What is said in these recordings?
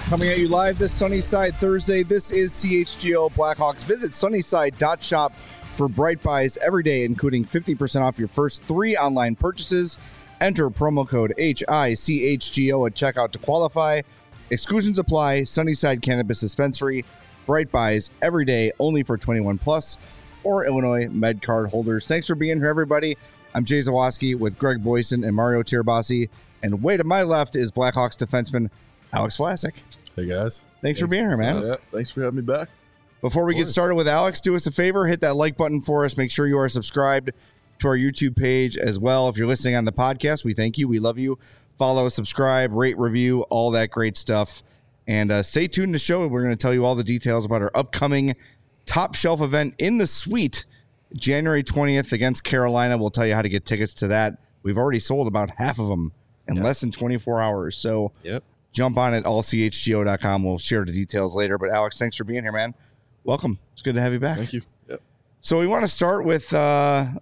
Coming at you live this Sunnyside Thursday. This is CHGO Blackhawks. Visit sunnyside.shop for Bright Buys every day, including 50% off your first 3 online purchases. Enter promo code HICHGO at checkout to qualify. Exclusions apply. Sunnyside Cannabis Dispensary. Bright Buys every day, only for 21 plus or Illinois Med Card holders. Thanks for being here, everybody. I'm Jay Zawaski with Greg Boyson and Mario Tirabassi. And way to my left is Blackhawks defenseman Alex Vlasic. Hey, guys. Thanks for being here, man. Yeah, thanks for having me back. Before we get started with Alex, do us a favor, hit that like button for us. Make sure you are subscribed to our YouTube page as well. If you're listening on the podcast, we thank you. We love you. Follow, subscribe, rate, review, all that great stuff. And stay tuned to the show. We're going to tell you all the details about our upcoming Top Shelf event in the Suite, January 20th against Carolina. We'll tell you how to get tickets to that. We've already sold about half of them in less than 24 hours. So jump on at allchgo.com. We'll share the details later. But Alex, thanks for being here, man. Welcome. It's good to have you back. Thank you. Yep. So we want to start with the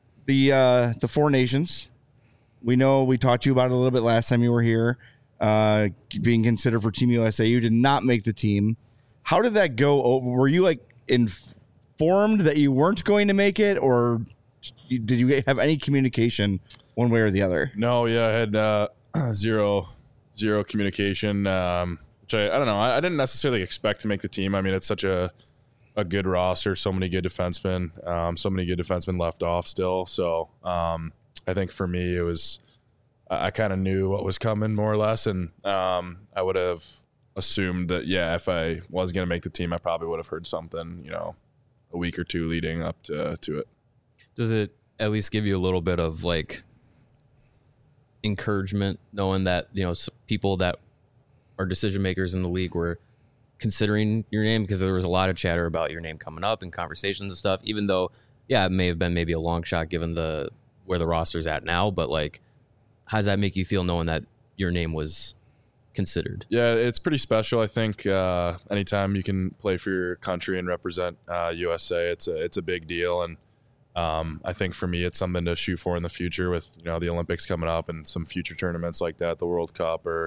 Four Nations. We know we talked to you about it a little bit last time you were here, being considered for Team USA. You did not make the team. How did that go? Were you like informed that you weren't going to make it, or did you have any communication one way or the other? No, I had zero communication, which I don't know. I didn't necessarily expect to make the team. I mean, it's such a good roster, so many good defensemen, left off still. So I think for me, it was I kind of knew what was coming more or less, and I would have assumed that if I was going to make the team, I probably would have heard something, a week or two leading up to it. Does it at least give you a little bit of like encouragement knowing that people that are decision makers in the league were considering your name, because there was a lot of chatter about your name coming up and conversations and stuff, even though it may have been maybe a long shot given where the roster's at now, but like, how does that make you feel knowing that your name was considered? It's pretty special. I think anytime you can play for your country and represent USA, it's a big deal. And I think for me, it's something to shoot for in the future with, the Olympics coming up and some future tournaments like that, the World Cup or,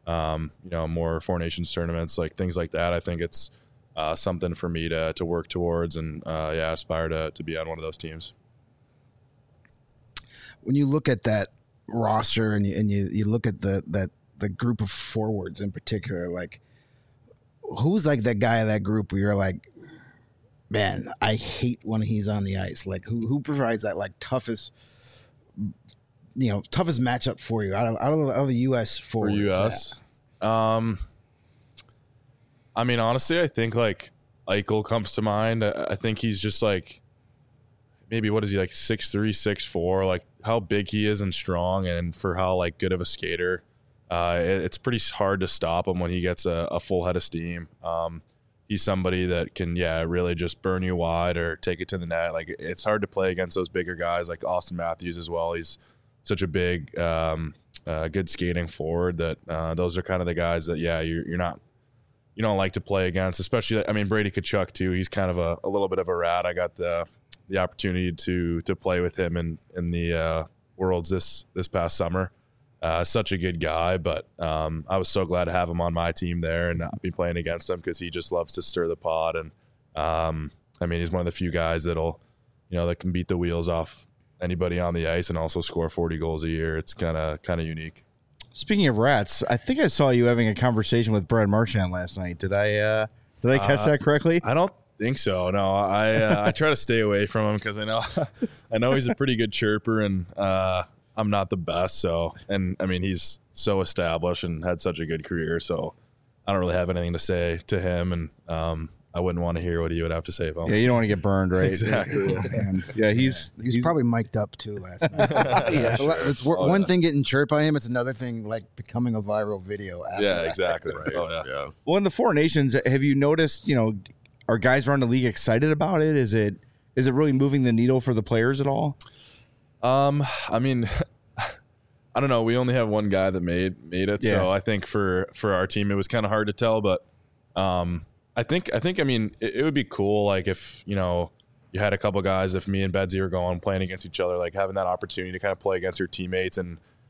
more Four Nations tournaments, like things like that. I think it's something for me to work towards and, aspire to be on one of those teams. When you look at that roster and you look at the group of forwards in particular, like who's like that guy of that group where you're like, man, I hate when he's on the ice. Like who provides that like toughest matchup for you out of the U.S. forwards? For U.S. I mean, honestly, I think like Eichel comes to mind. I think he's just like, maybe what is he, like 6'3", 6'4", like how big he is and strong, and for how like good of a skater, it's pretty hard to stop him when he gets a full head of steam. He's somebody that can, really just burn you wide or take it to the net. Like it's hard to play against those bigger guys like Austin Matthews as well. He's such a big, good skating forward that those are kind of the guys that, you don't like to play against, especially, I mean, Brady Tkachuk too. He's kind of a little bit of a rat. I got the opportunity to play with him in the Worlds this past summer. Such a good guy, but I was so glad to have him on my team there and not be playing against him because he just loves to stir the pot. And I mean, he's one of the few guys that'll, that can beat the wheels off anybody on the ice and also score 40 goals a year. It's kind of unique. Speaking of rats, I think I saw you having a conversation with Brad Marchand last night. Did I catch that correctly? I don't think so. No, I try to stay away from him because I know he's a pretty good chirper, and I'm not the best. So, and I mean, he's so established and had such a good career. So I don't really have anything to say to him, and I wouldn't want to hear what he would have to say about him. Yeah, you don't want to get burned, right? Exactly. He's probably mic'd up too last night. It's one thing getting chirped by him. It's another thing like becoming a viral video. After that. Exactly. Right. Oh, yeah. Well, in the Four Nations, have you noticed, are guys around the league excited about it? Is it really moving the needle for the players at all? I mean, I don't know. We only have one guy that made it. Yeah. So I think for our team, it was kind of hard to tell, but I think I mean, it would be cool. Like if, you had a couple guys, if me and Bedsy were playing against each other, like having that opportunity to kind of play against your teammates and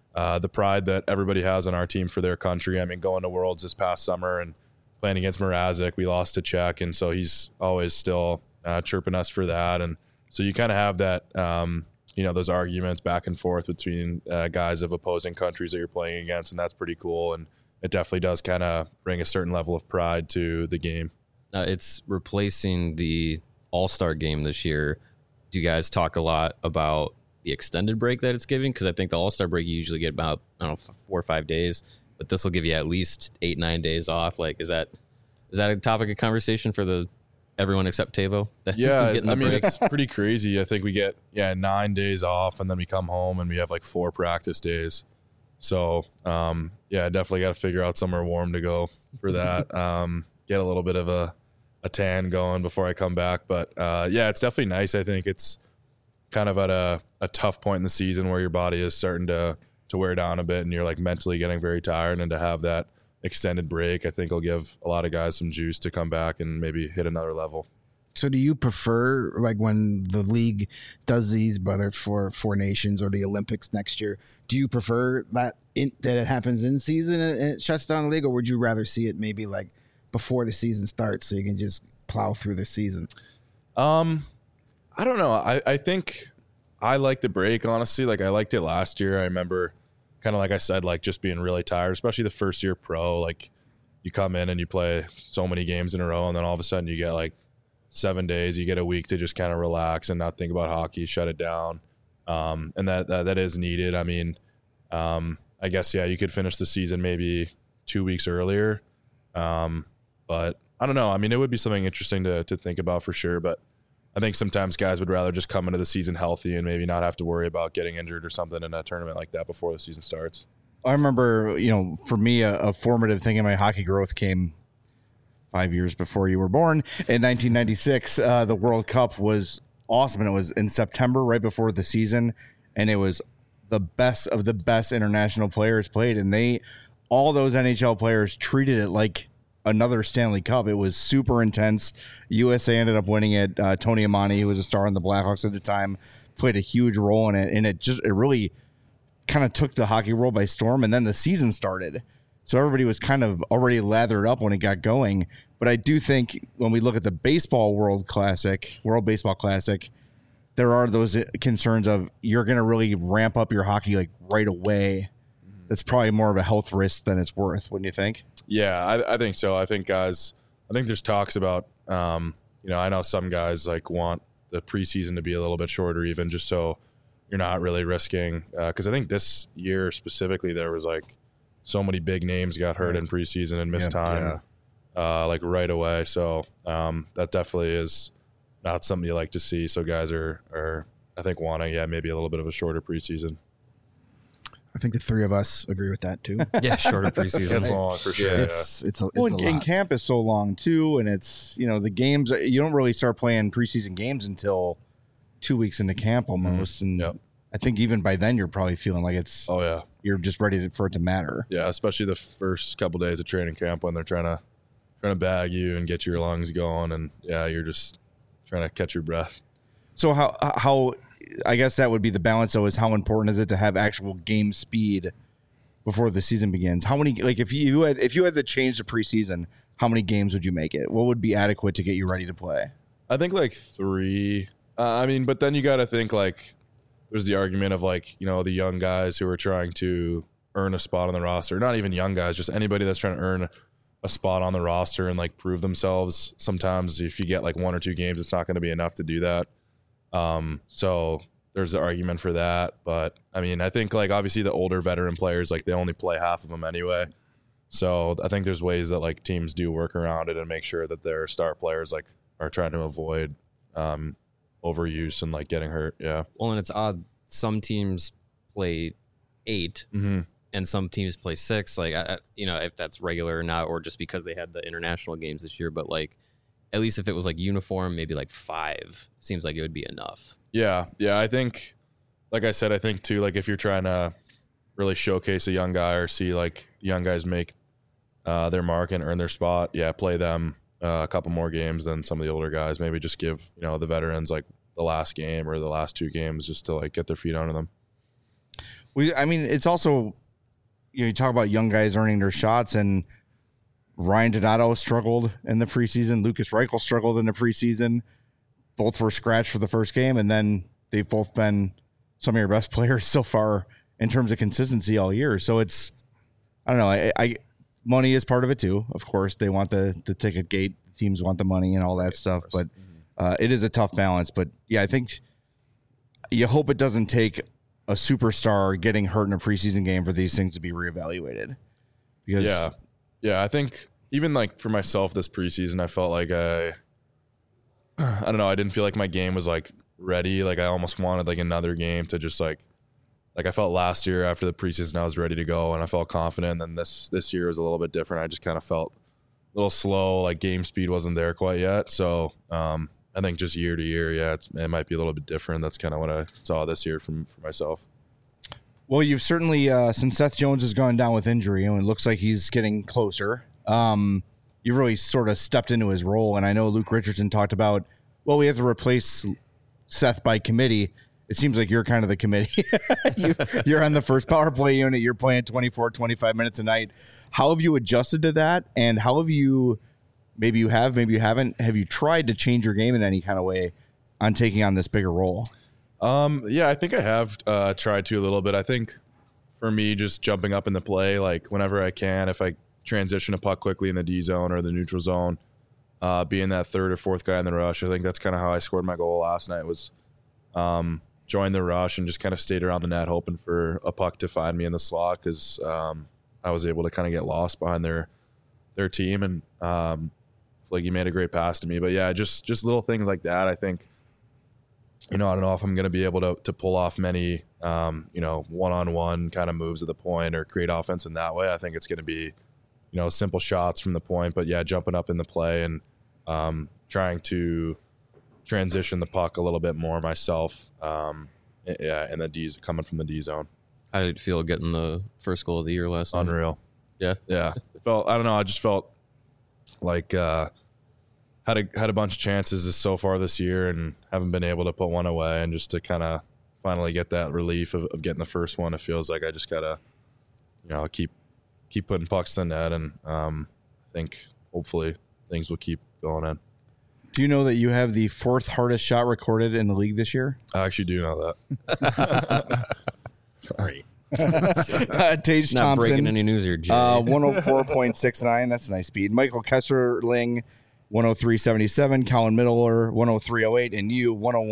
the pride that everybody has on our team for their country. I mean, going to Worlds this past summer and playing against Mrazek, we lost to Czech, and so he's always still chirping us for that. And so you kind of have that, those arguments back and forth between guys of opposing countries that you're playing against, and that's pretty cool. And it definitely does kind of bring a certain level of pride to the game. It's replacing the All-Star game this year. Do you guys talk a lot about the extended break that it's giving? Because I think the All-Star break you usually get about 4 or 5 days, but this will give you at least 8-9 days off. Like, is that a topic of conversation for everyone except Tavo? Yeah, I mean, it's pretty crazy. I think we get 9 days off, and then we come home and we have like 4 practice days. So definitely got to figure out somewhere warm to go for that. Get a little bit of a tan going before I come back. But it's definitely nice. I think it's kind of at a tough point in the season where your body is starting to wear down a bit and you're like mentally getting very tired, and to have that extended break, I think will give a lot of guys some juice to come back and maybe hit another level. So do you prefer, like, when the league does these, whether for 4 Nations or the Olympics next year, do you prefer that it happens in season and it shuts down the league, or would you rather see it maybe like before the season starts so you can just plow through the season? I don't know. I think I like the break, honestly. Like, I liked it last year. I remember, kind of like I said, like just being really tired, especially the first year pro. Like, you come in and you play so many games in a row, and then all of a sudden you get like 7 days, you get a week to just kind of relax and not think about hockey, shut it down. And that is needed. I mean, I guess, you could finish the season maybe 2 weeks earlier. But I don't know. I mean, it would be something interesting to think about for sure. But I think sometimes guys would rather just come into the season healthy and maybe not have to worry about getting injured or something in a tournament like that before the season starts. I remember, for me, a formative thing in my hockey growth came 5 years before you were born. In 1996, the World Cup was awesome, and it was in September, right before the season, and it was the best of the best international players played, and all those NHL players treated it like another Stanley Cup. It was super intense. USA ended up winning it. Tony Amani, who was a star in the Blackhawks at the time, played a huge role in it, and it really kind of took the hockey world by storm. And then the season started, so everybody was kind of already lathered up when it got going. But I do think when we look at the World Baseball Classic, there are those concerns of you're going to really ramp up your hockey like right away. That's probably more of a health risk than it's worth, wouldn't you think? Yeah, I think so. I think there's talks about, I know some guys like want the preseason to be a little bit shorter, even just so you're not really risking. Because I think this year specifically, there was like so many big names got hurt in preseason and missed time like right away. So that definitely is not something you like to see. So guys are I think wanting, maybe a little bit of a shorter preseason. I think the 3 of us agree with that too. Yeah, shorter preseason. It's long for sure. It's a lot. And camp is so long too, and it's the games. You don't really start playing preseason games until 2 weeks into camp almost, and I think even by then you're probably feeling like it's you're just ready for it to matter. Yeah, especially the first couple days of training camp when they're trying to bag you and get your lungs going, and you're just trying to catch your breath. So how I guess that would be the balance, though, is how important is it to have actual game speed before the season begins? How many, like, if you had to change the preseason, how many games would you make it? What would be adequate to get you ready to play? I think like 3. But then you got to think like there's the argument of like, the young guys who are trying to earn a spot on the roster. Not even young guys, just anybody that's trying to earn a spot on the roster and like prove themselves. Sometimes if you get like 1 or 2 games, it's not going to be enough to do that. So there's the argument for that. But I mean, I think like obviously the older veteran players, like they only play half of them anyway. So I think there's ways that like teams do work around it and make sure that their star players like are trying to avoid overuse and like getting hurt. Yeah. Well, and it's odd. Some teams play 8 and some teams play 6. Like, if that's regular or not, or just because they had the international games this year. But like, at least if it was like uniform, maybe like 5 seems like it would be enough. Yeah. I think, like I said, I think too, like if you're trying to really showcase a young guy or see like young guys make their mark and earn their spot, play them a couple more games than some of the older guys. Maybe just give, the veterans like the last game or the last 2 games just to like get their feet under them. It's also, you talk about young guys earning their shots, and Ryan Donato struggled in the preseason. Lucas Reichel struggled in the preseason. Both were scratched for the first game, and then they've both been some of your best players so far in terms of consistency all year. So it's, I don't know. I money is part of it too. Of course, they want the ticket gate. Teams want the money and all that stuff, but it is a tough balance. But yeah, I think you hope it doesn't take a superstar getting hurt in a preseason game for these things to be reevaluated. Because yeah, I think even like for myself this preseason, I felt like I don't know, I didn't feel like my game was like ready. Like I almost wanted like another game to just like I felt last year after the preseason I was ready to go and I felt confident. And then this year was a little bit different. I just kind of felt a little slow, like game speed wasn't there quite yet. So I think just year to year, it might be a little bit different. That's kind of what I saw this year for myself. Well, you've certainly, since Seth Jones has gone down with injury, and it looks like he's getting closer, you've really sort of stepped into his role. And I know Luke Richardson talked about, well, we have to replace Seth by committee. It seems like you're kind of the committee. You're on the first power play unit. You're playing 24, 25 minutes a night. How have you adjusted to that? And how have you, maybe you have, maybe you haven't, have you tried to change your game in any kind of way on taking on this bigger role? Yeah, I think I have tried to a little bit. I think for me, just jumping up in the play, like whenever I can, if I transition a puck quickly in the D zone or the neutral zone, being that third or fourth guy in the rush. I think that's kind of how I scored my goal last night was join the rush and just kind of stayed around the net hoping for a puck to find me in the slot because I was able to kind of get lost behind their team and like he made a great pass to me. But yeah, just little things like that. I think, I don't know if I'm going to be able to pull off many, one-on-one kind of moves at the point or create offense in that way. I think it's going to be, simple shots from the point, but yeah, jumping up in the play and trying to transition the puck a little bit more myself. And the D's coming from the D zone. How did it feel getting the first goal of the year last night? Unreal. Yeah. Yeah. I just felt like, had a bunch of chances so far this year and haven't been able to put one away, and just to kind of finally get that relief of getting the first one, it feels like I just gotta, keep putting pucks in the net, and I think hopefully things will keep going in. Do you know that you have the fourth hardest shot recorded in the league this year? I actually do know that. Sorry. Tage Not Thompson, breaking any news here, Jay. 104.69. That's a nice speed. Michael Kesserling, 103.77. Colin Middler, 103.08. And you,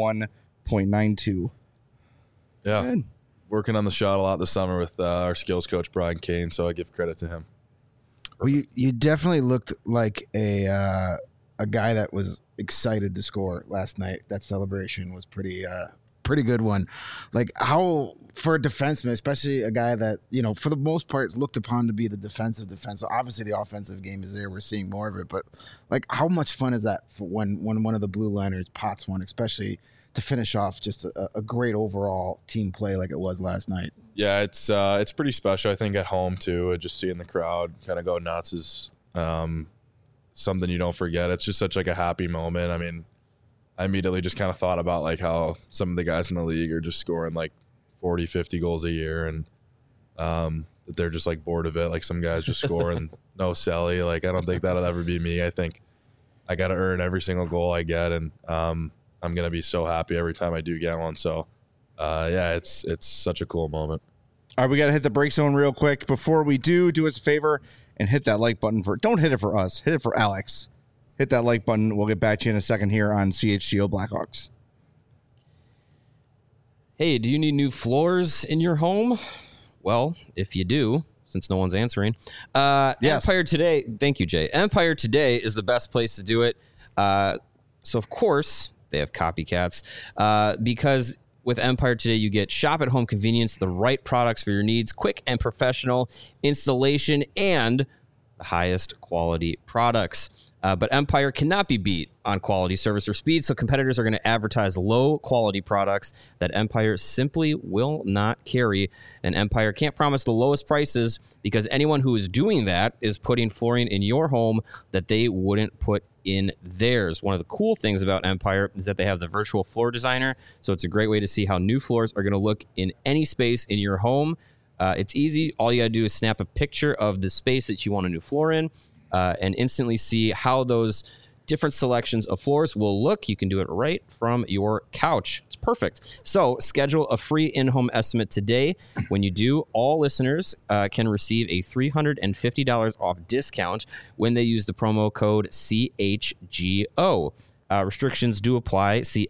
101.92. Yeah. Good. Working on the shot a lot this summer with our skills coach, Brian Kane, so I give credit to him. Well, you definitely looked like a guy that was excited to score last night. That celebration was pretty good one. Like, how, for a defenseman, especially a guy that, for the most part is looked upon to be the defensive defense. So obviously the offensive game is there. We're seeing more of it. But, like, how much fun is that for when one of the blue liners pots one, especially to finish off just a great overall team play like it was last night? Yeah, it's pretty special. I think at home, too, just seeing the crowd kind of go nuts is something you don't forget. It's just such like a happy moment. I mean, I immediately just kind of thought about like how some of the guys in the league are just scoring like 40, 50 goals a year, and that they're just like bored of it. Like some guys just score and no celly. Like I don't think that'll ever be me. I think I got to earn every single goal I get, and I'm gonna be so happy every time I do get one. So yeah, it's such a cool moment. All right, we got to hit the break zone real quick. Before we do us a favor and hit that like button don't hit it for us. Hit it for Alex. Hit that like button. We'll get back to you in a second here on CHGO Blackhawks. Hey, do you need new floors in your home? Well, if you do, since no one's answering, yes. Empire Today. Thank you, Jay. Empire Today is the best place to do it. So, of course, they have copycats because with Empire Today, you get shop-at-home convenience, the right products for your needs, quick and professional installation, and the highest quality products. But Empire cannot be beat on quality, service, or speed, so competitors are going to advertise low-quality products that Empire simply will not carry. And Empire can't promise the lowest prices because anyone who is doing that is putting flooring in your home that they wouldn't put in theirs. One of the cool things about Empire is that they have the virtual floor designer, so it's a great way to see how new floors are going to look in any space in your home. It's easy. All you got to do is snap a picture of the space that you want a new floor in, and instantly see how those different selections of floors will look. You can do it right from your couch. It's perfect. So schedule a free in-home estimate today. When you do, all listeners can receive a $350 off discount when they use the promo code CHGO. Restrictions do apply. See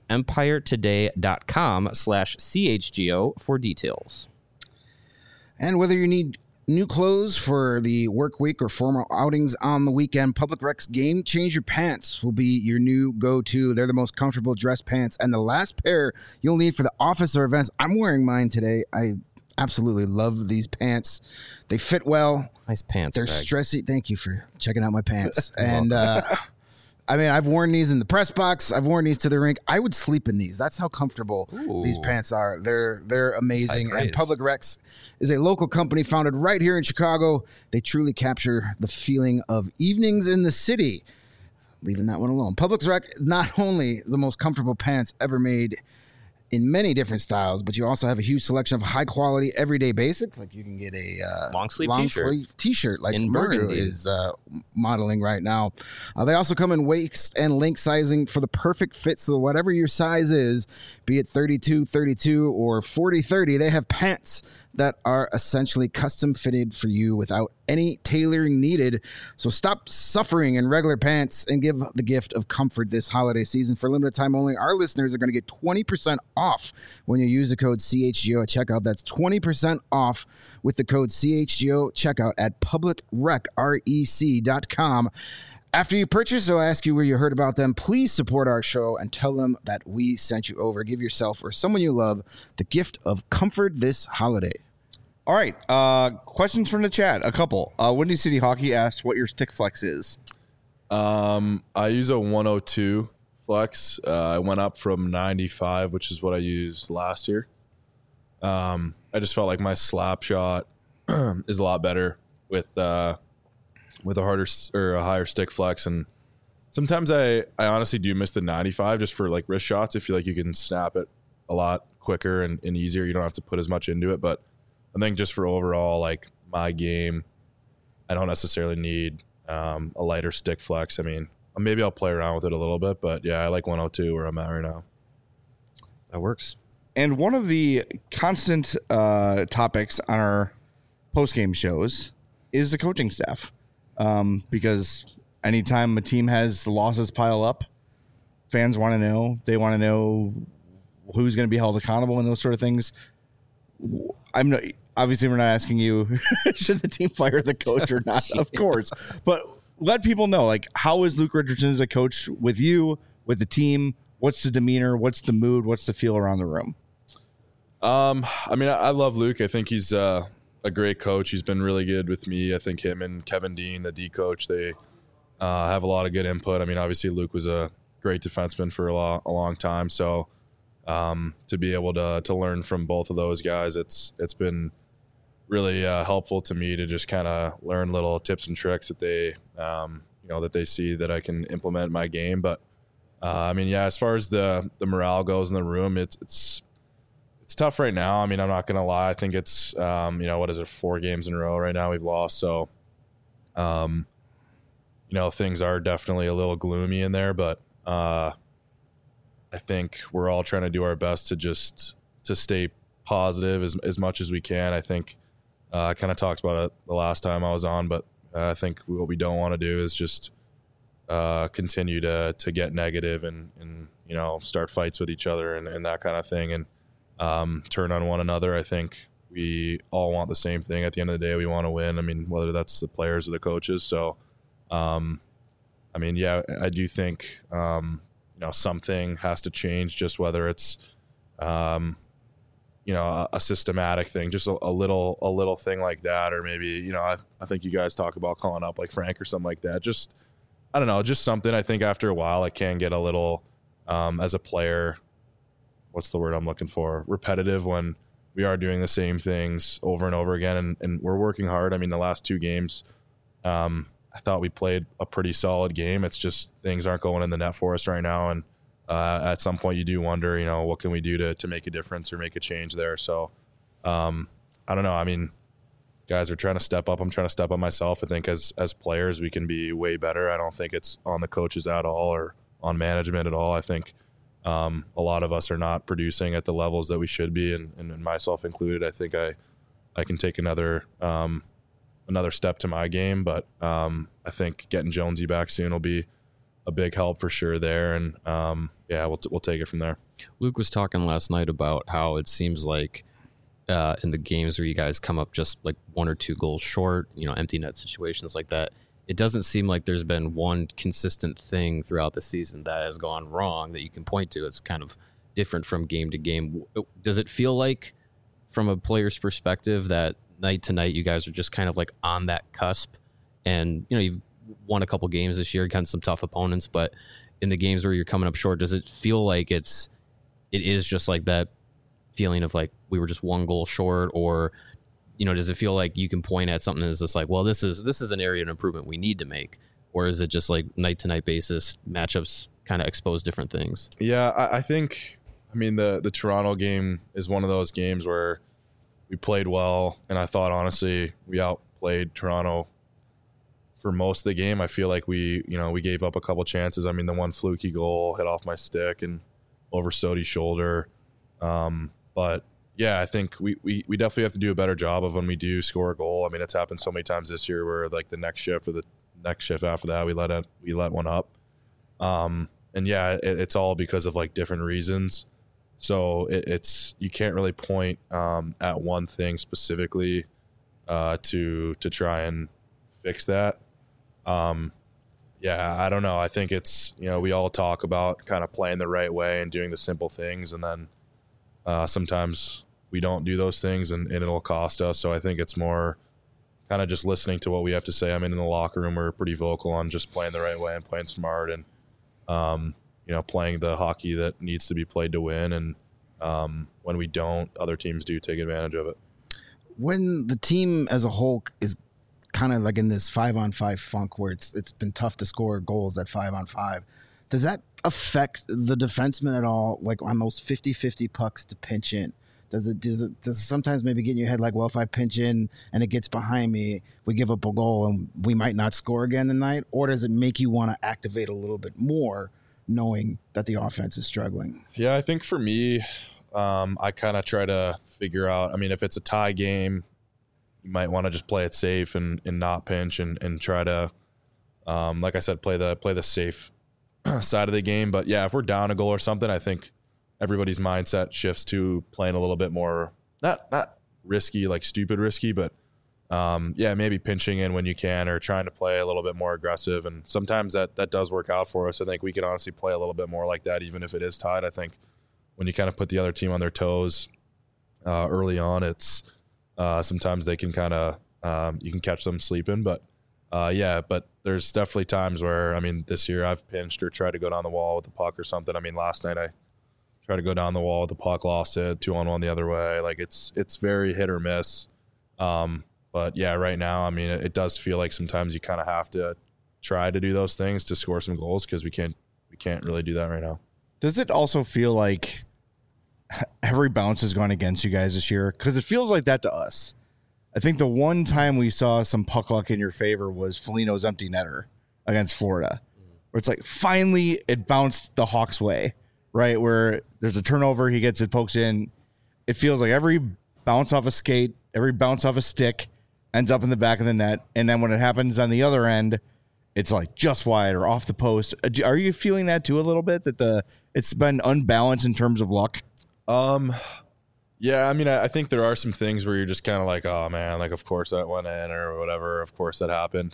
empiretoday.com/CHGO for details. And whether you need new clothes for the work week or formal outings on the weekend, Public Rec's Game Changer Pants will be your new go-to. They're the most comfortable dress pants and the last pair you'll need for the office or events. I'm wearing mine today. I absolutely love these pants. They fit well. Nice pants. They're Greg. stressy. Thank you for checking out my pants. And I mean, I've worn these in the press box. I've worn these to the rink. I would sleep in these. That's how comfortable these pants are. They're amazing. And Public Recs is a local company founded right here in Chicago. They truly capture the feeling of evenings in the city. Leaving that one alone. Public Rec is not only the most comfortable pants ever made in many different styles, but you also have a huge selection of high quality everyday basics. Like you can get a long sleeve t-shirt like in Mario burgundy is modeling right now. They also come in waist and length sizing for the perfect fit. So whatever your size is, be it 32, 32 or 40, 30, they have pants that are essentially custom fitted for you without any tailoring needed. So stop suffering in regular pants and give the gift of comfort this holiday season. For limited time only, our listeners are going to get 20% off when you use the code CHGO at checkout. That's 20% off with the code CHGO checkout at publicrec.com. After you purchase, they'll ask you where you heard about them. Please support our show and tell them that we sent you over. Give yourself or someone you love the gift of comfort this holiday. All right. Questions from the chat. A couple. Windy City Hockey asked what your stick flex is. I use a 102 flex. I went up from 95, which is what I used last year. I just felt like my slap shot is a lot better with a harder or a higher stick flex. And sometimes I honestly do miss the 95 just for like wrist shots. I feel like you can snap it a lot quicker and easier. You don't have to put as much into it, but I think just for overall, like my game, I don't necessarily need a lighter stick flex. I mean, maybe I'll play around with it a little bit, but yeah, I like 102 where I'm at right now. That works. And one of the constant topics on our post-game shows is the coaching staff. Because anytime a team has losses pile up, fans want to know. They want to know who's going to be held accountable and those sort of things. Obviously, we're not asking you should the team fire the coach or not, of course. But let people know, like, how is Luke Richardson as a coach with you, with the team? What's the demeanor? What's the mood? What's the feel around the room? I mean, I love Luke. I think he's a great coach. He's been really good with me. I think him and Kevin Dean, the D coach, they have a lot of good input. I mean, obviously Luke was a great defenseman for a long time. So to be able to learn from both of those guys, it's been really helpful to me to just kind of learn little tips and tricks that they that they see that I can implement in my game. But I mean, yeah, as far as the morale goes in the room, it's tough right now. I mean, I'm not going to lie. I think it's, what is it, 4 games in a row right now we've lost. So, things are definitely a little gloomy in there, but I think we're all trying to do our best to stay positive as much as we can. I think I kind of talked about it the last time I was on, but I think what we don't want to do is just continue to get negative and start fights with each other and that kind of thing. And, turn on one another. I think we all want the same thing. At the end of the day, we want to win. I mean, whether that's the players or the coaches. So, I mean, yeah, I do think, something has to change, just whether it's, a systematic thing, just a little thing like that. Or maybe, I think you guys talk about calling up like Frank or something like that. Just I don't know, just something I think after a while it can get a little, as a player, what's the word I'm looking for? Repetitive when we are doing the same things over and over again, and we're working hard. I mean, the last 2 games, I thought we played a pretty solid game. It's just things aren't going in the net for us right now, and at some point you do wonder, what can we do to make a difference or make a change there? So I don't know. I mean, guys are trying to step up. I'm trying to step up myself. I think as players we can be way better. I don't think it's on the coaches at all or on management at all. I think a lot of us are not producing at the levels that we should be, and myself included. I think I can take another step to my game, but I think getting Jonesy back soon will be a big help for sure there, and we'll take it from there. Luke was talking last night about how it seems like in the games where you guys come up just like 1 or 2 goals short, empty net situations like that, it doesn't seem like there's been one consistent thing throughout the season that has gone wrong that you can point to. It's kind of different from game to game. Does it feel like, from a player's perspective, that night to night you guys are just kind of like on that cusp? And you've won a couple games this year against some tough opponents, but in the games where you're coming up short, does it feel like it is just like that feeling of like we were just 1 goal short? Or does it feel like you can point at something that's just like, well, this is an area of improvement we need to make? Or is it just like night to night basis matchups kind of expose different things? Yeah, I think, the Toronto game is one of those games where we played well, and I thought honestly we outplayed Toronto for most of the game. I feel like we gave up a couple chances. The one fluky goal hit off my stick and over Sodi's shoulder. But yeah, I think we definitely have to do a better job of when we do score a goal. It's happened so many times this year where like the next shift or the next shift after that we let one up. And yeah, it's all because of like different reasons. So it's you can't really point at one thing specifically to try and fix that. Yeah, I don't know. I think it's, we all talk about kind of playing the right way and doing the simple things, and then sometimes we don't do those things and it'll cost us. So I think it's more kind of just listening to what we have to say. In the locker room, we're pretty vocal on just playing the right way and playing smart and, playing the hockey that needs to be played to win. And when we don't, other teams do take advantage of it. When the team as a whole is kind of like in this 5-on-5 funk where it's been tough to score goals at 5-on-5, does that affect the defenseman at all? Like on those 50-50 pucks to pinch in, does it sometimes maybe get in your head like, well, if I pinch in and it gets behind me, we give up a goal and we might not score again tonight? Or does it make you want to activate a little bit more knowing that the offense is struggling? Yeah, I think for me, I kind of try to figure out, if it's a tie game, you might want to just play it safe and not pinch and try to, like I said, play the safe side of the game. But yeah, if we're down a goal or something, I think everybody's mindset shifts to playing a little bit more, not risky, like stupid risky, but maybe pinching in when you can or trying to play a little bit more aggressive. And sometimes that does work out for us. I think we can honestly play a little bit more like that, even if it is tied. I think when you kind of put the other team on their toes early on, it's sometimes they can kind of you can catch them sleeping. But but there's definitely times where, this year I've pinched or tried to go down the wall with the puck or something. Last night I tried to go down the wall with the puck, lost it, 2-on-1 the other way. Like it's very hit or miss. But yeah, right now, it does feel like sometimes you kind of have to try to do those things to score some goals because we can't really do that right now. Does it also feel like every bounce has gone against you guys this year? Because it feels like that to us. I think the one time we saw some puck luck in your favor was Foligno's empty netter against Florida, where it's like finally it bounced the Hawks' way, right? Where there's a turnover, he gets it, pokes in. It feels like every bounce off a skate, every bounce off a stick ends up in the back of the net. And then when it happens on the other end, it's like just wide or off the post. Are you feeling that too a little bit, that it's been unbalanced in terms of luck? Yeah, I think there are some things where you're just kind of like, oh man, like of course that went in or whatever. Of course that happened.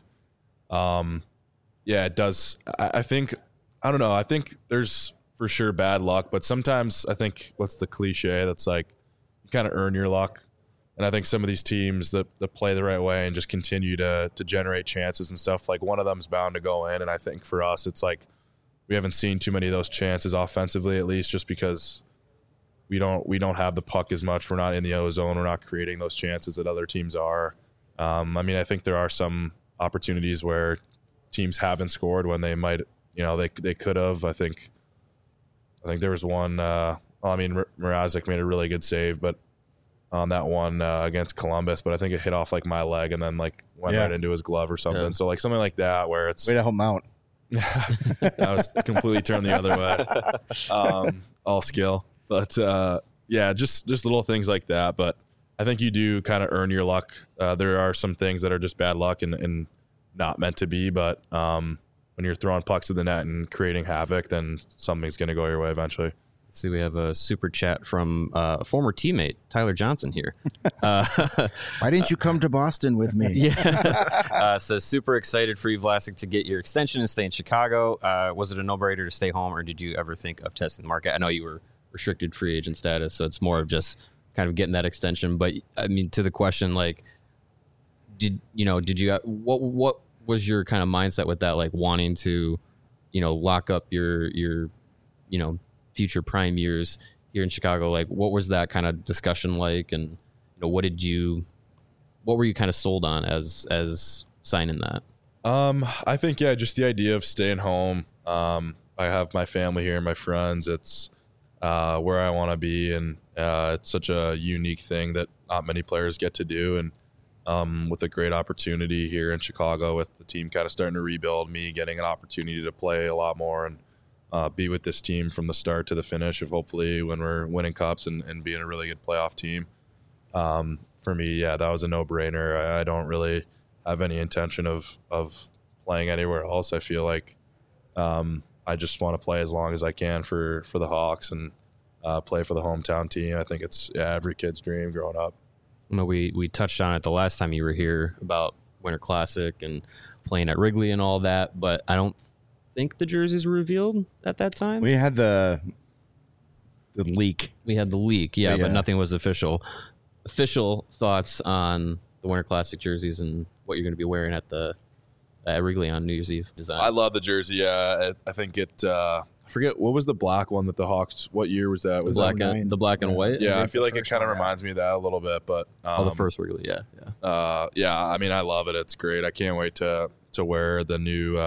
Yeah, it does. I think, I don't know. I think there's for sure bad luck, but sometimes I think what's the cliche that's like you kind of earn your luck. And I think some of these teams that play the right way and just continue to generate chances and stuff, like one of them's bound to go in. And I think for us, it's like we haven't seen too many of those chances offensively, at least, just because we don't have the puck as much. We're not in the O zone. We're not creating those chances that other teams are. I mean, I think there are some opportunities where teams haven't scored when they might, they could have. I think there was one. Mrazek made a really good save, but on that one against Columbus, but I think it hit off like my leg and then like went right into his glove or something. Yeah. So like something like that where it's way to help him out. I was completely turned the other way. All skill, but just little things like that. But I think you do kind of earn your luck. There are some things that are just bad luck and not meant to be, but when you're throwing pucks to the net and creating havoc, then something's going to go your way eventually. See, we have a super chat from a former teammate, Tyler Johnson here. Why didn't you come to Boston with me? Yeah. Says, super excited for you, Vlasic, to get your extension and stay in Chicago. Was it a no-brainer to stay home, or did you ever think of testing the market? I know you were restricted free agent status, so it's more of just kind of getting that extension. But, I mean, to the question, like, what was your kind of mindset with that, like wanting to, lock up your future prime years here in Chicago? Like, what was that kind of discussion like, and what were you kind of sold on as signing that? I think just the idea of staying home. I have my family here and my friends. It's where I want to be, and it's such a unique thing that not many players get to do, and with a great opportunity here in Chicago with the team kind of starting to rebuild, me getting an opportunity to play a lot more and be with this team from the start to the finish of hopefully when we're winning cups and being a really good playoff team. For me, that was a no-brainer. I don't really have any intention of playing anywhere else. I feel like I just want to play as long as I can for the Hawks and play for the hometown team. I think it's every kid's dream growing up. We touched on it the last time you were here about Winter Classic and playing at Wrigley and all that, but I don't think the jerseys were revealed at that time. We had the leak. We had the leak, but nothing was official. Official thoughts on the Winter Classic jerseys and what you're going to be wearing at Wrigley on New Year's Eve design. I love the jersey. I think it. I forget what was the black one that the Hawks. What year was that? Was the black and white? Yeah, I feel like it kind of reminds me of that a little bit. But the first Wrigley, yeah. I mean, I love it. It's great. I can't wait to wear the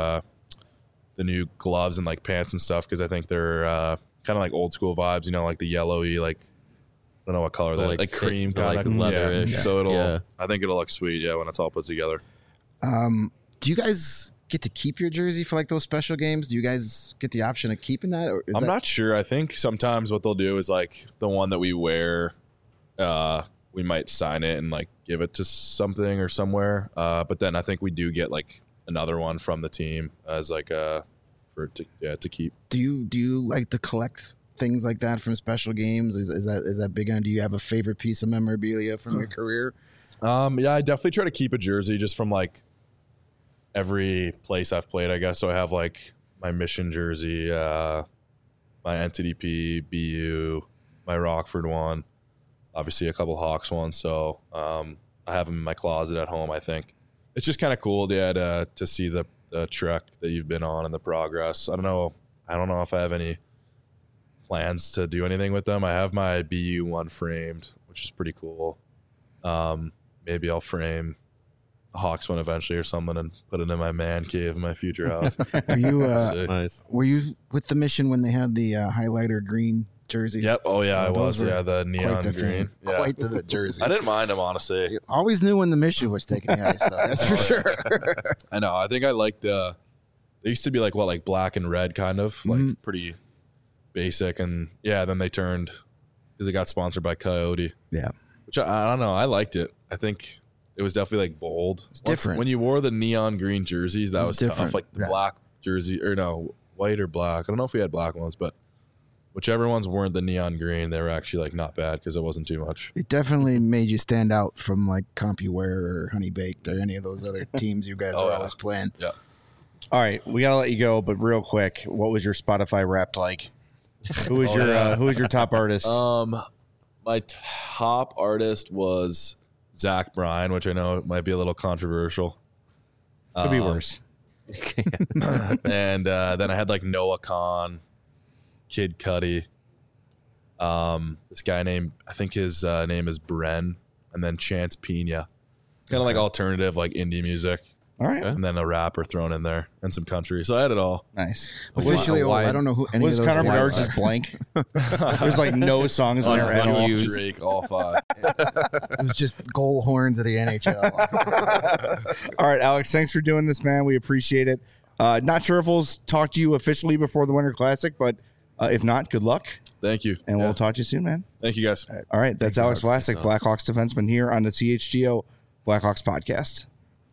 new gloves and like pants and stuff, because I think they're kind of like old school vibes, like the yellowy, like I don't know what color that, like cream kind of leatherish. Yeah. So I think it'll look sweet, when it's all put together. Do you guys get to keep your jersey for like those special games? Do you guys get the option of keeping that? Or I'm not sure. I think sometimes what they'll do is like the one that we wear, we might sign it and like give it to something or somewhere. But then I think we do get like another one from the team as like to keep. Do you like to collect things like that from special games? Is that big on? Do you have a favorite piece of memorabilia from your career? I definitely try to keep a jersey just from like every place I've played, I guess. So I have like my Mission jersey, my NTDP, BU, my Rockford one, obviously a couple Hawks ones. So I have them in my closet at home. I think it's just kind of cool, to see the trek that you've been on and the progress. I don't know if I have any plans to do anything with them. I have my BU one framed, which is pretty cool. Maybe I'll frame a Hawks one eventually or something and put it in my man cave in my future house. Are you nice? Were you with the Mission when they had the highlighter green jerseys? Yep. Oh yeah, I was. Yeah, the neon green. Yeah. Quite the jersey. I didn't mind them, honestly. You always knew when the Mission was taking the ice, though. That's for sure. I know. I think I like they used to be like black and red, kind of like pretty basic, and then they turned because it got sponsored by Coyote. Yeah. Which I don't know. I liked it. I think it was definitely like bold. It's different. When you wore the neon green jerseys, that was tough. Like the black jersey, or no, white or black. I don't know if we had black ones, but whichever ones weren't the neon green, they were actually like not bad because it wasn't too much. It definitely made you stand out from like CompuWare or Honey Baked or any of those other teams you guys were always playing. Yeah. All right, we gotta let you go, but real quick, what was your Spotify Wrapped like? Who was your top artist? My top artist was Zach Bryan, which I know might be a little controversial. Could be worse. And then I had like Noah Khan, Kid Cudi, this guy named, I think his name is Bren, and then Chance Pina. Kind of like alternative, like indie music. All right. And then a rapper thrown in there and some country. So I had it all. Nice. Officially, I don't know who any Was of those Connor guys Bedard are. just blank? There's like no songs in there at all. Unused. Drake, all 5. It was just goal horns of the NHL. All right, Alex, thanks for doing this, man. We appreciate it. Not sure if we'll talk to you officially before the Winter Classic, but if not, good luck. Thank you. And we'll talk to you soon, man. Thank you, guys. All right, that's Alex Vlasic, Blackhawks defenseman here on the CHGO Blackhawks podcast.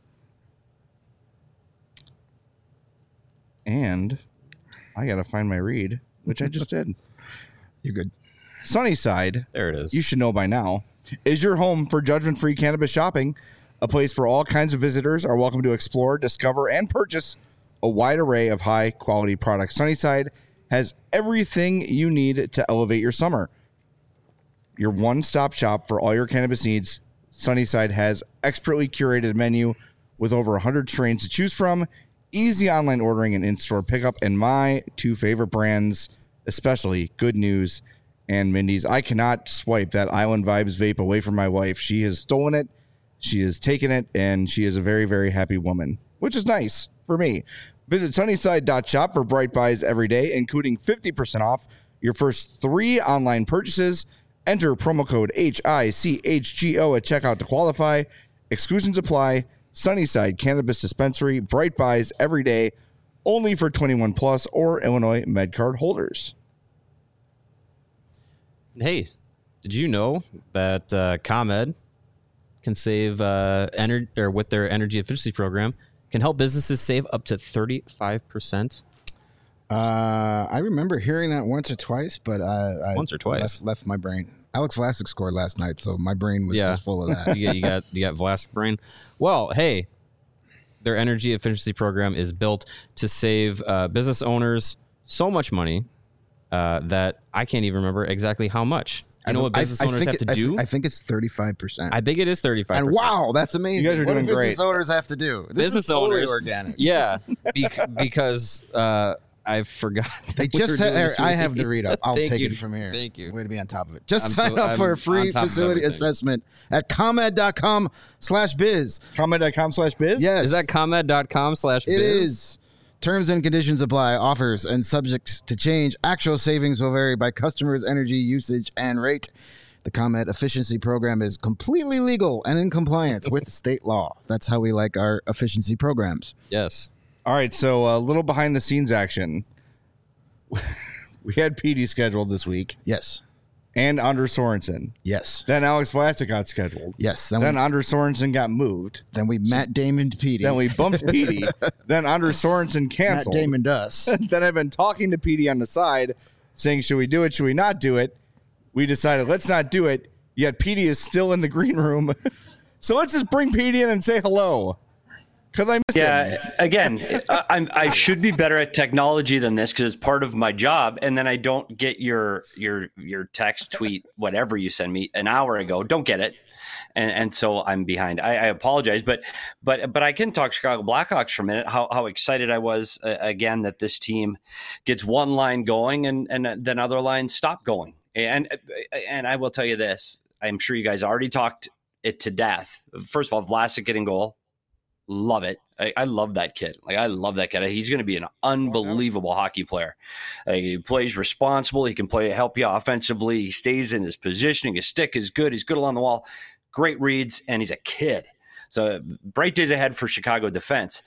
And I got to find my read, which I just did. You're good. Sunnyside, There it is. you should know by now, is your home for judgment-free cannabis shopping, a place where all kinds of visitors are welcome to explore, discover, and purchase a wide array of high-quality products. Sunnyside has everything you need to elevate your summer. Your one-stop shop for all your cannabis needs, Sunnyside has expertly curated menu with over 100 strains to choose from, easy online ordering and in-store pickup, and my 2 favorite brands, especially Good News and Mindy's. I cannot swipe that Island Vibes vape away from my wife. She has stolen it, she has taken it, and she is a very, very happy woman, which is nice for me. Visit sunnyside.shop for bright buys every day, including 50% off your first 3 online purchases. Enter promo code HICHGO at checkout to qualify. Exclusions apply. Sunnyside Cannabis Dispensary, bright buys every day, only for 21 plus or Illinois MedCard holders. Hey, did you know that ComEd can save with their energy efficiency program can help businesses save up to 35%? I remember hearing that once or twice, but I Once or twice. left my brain. Alex Vlasic scored last night, so my brain was just full of that. you got Vlasic brain. Well, hey, their energy efficiency program is built to save business owners so much money that I can't even remember exactly how much. You know what business owners have to do? I think it's 35%. I think it is 35%. And wow, that's amazing. You guys are What doing do business great. owners have to do? This Business is totally owners- organic. Yeah, because I forgot. They that we just were doing had, this I week. have the read up. I'll Thank take you. it from here. Thank you. Way to be on top of it. Just I'm sign so- up for I'm a free on top of facility everything. assessment at comed.com/biz. Comment.com/biz? Yes. Is that comed.com/biz? It is. Terms and conditions apply. Offers and subject to change. Actual savings will vary by customers' energy usage and rate. The ComEd efficiency program is completely legal and in compliance with state law. That's how we like our efficiency programs. Yes. All right, so a little behind the scenes action. We had PD scheduled this week Yes. and Anders Sorensen. Yes. Then Alex Vlasic got scheduled. Yes. Then Anders Sorensen got moved. Then we Matt Damon Petey. Then we bumped PD. Then Anders Sorensen Matt canceled. Damon us. Then I've been talking to PD on the side saying, should we do it? Should we not do it? We decided, let's not do it. Yet PD is still in the green room. So let's just bring PD in and say hello. Because I miss him. Yeah, again, I should be better at technology than this because it's part of my job, and then I don't get your text, tweet, whatever you send me an hour ago. Don't get it, and so I'm behind. I apologize, but I can talk Chicago Blackhawks for a minute. How excited I was again that this team gets one line going and then other lines stop going, and I will tell you this. I'm sure you guys already talked it to death. First of all, Vlasic getting goal. Love it. I love that kid. I love that kid. He's going to be an unbelievable hockey player. He plays responsible. He can help you offensively. He stays in his positioning. His stick is good. He's good along the wall. Great reads, and he's a kid. So bright days ahead for Chicago defense.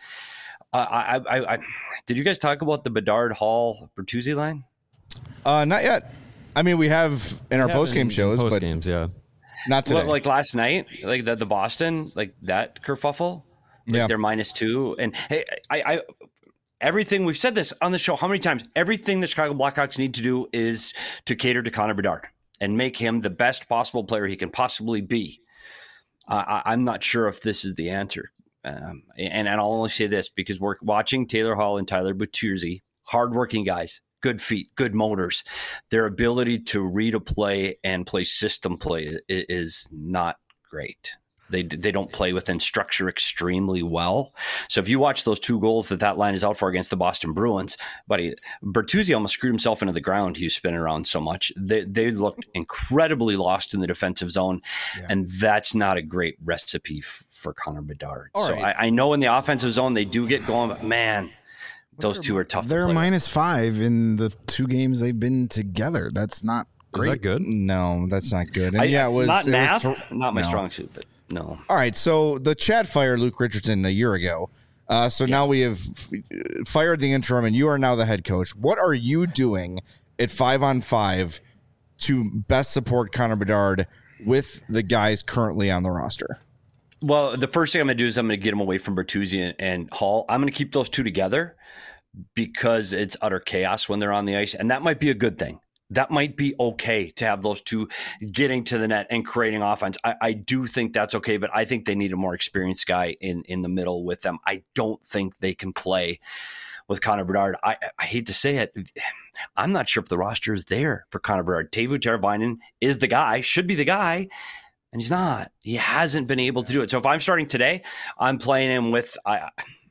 Did you guys talk about the Bedard Hall Bertuzzi line? Not yet. I mean, we have in our post-game shows, Post but games, yeah. not today. Like last night, like the Boston, like that kerfuffle. Yeah. They're -2. And hey, I everything we've said this on the show, how many times? Everything the Chicago Blackhawks need to do is to cater to Connor Bedard and make him the best possible player he can possibly be. I'm not sure if this is the answer. And I'll only say this because we're watching Taylor Hall and Tyler Bertuzzi, hardworking guys, good feet, good motors. Their ability to read a play and play system play is not great. They don't play within structure extremely well. So if you watch those 2 goals that line is out for against the Boston Bruins, buddy, Bertuzzi almost screwed himself into the ground. He was spinning around so much. They looked incredibly lost in the defensive zone, and that's not a great recipe for Connor Bedard. All so right. I know in the offensive zone they do get going, but man, those two are tough. They're to play with. -5 in the 2 games they've been together. That's not Is great. that good? No, that's not good. And it was not it math, was not my no. strong suit, but no. All right, so the Chat fired Luke Richardson a year ago. So now we have fired the interim, and you are now the head coach. What are you doing at 5-on-5 to best support Connor Bedard with the guys currently on the roster? Well, the first thing I'm going to do is I'm going to get him away from Bertuzzi and Hall. I'm going to keep those 2 together because it's utter chaos when they're on the ice, and that might be a good thing. That might be okay to have those 2 getting to the net and creating offense. I do think that's okay, but I think they need a more experienced guy in the middle with them. I don't think they can play with Connor Bedard. I hate to say it. I'm not sure if the roster is there for Connor Bedard. Teuvo Teravainen is the guy, should be the guy, and he's not. He hasn't been able to do it. So if I'm starting today, I'm playing him with I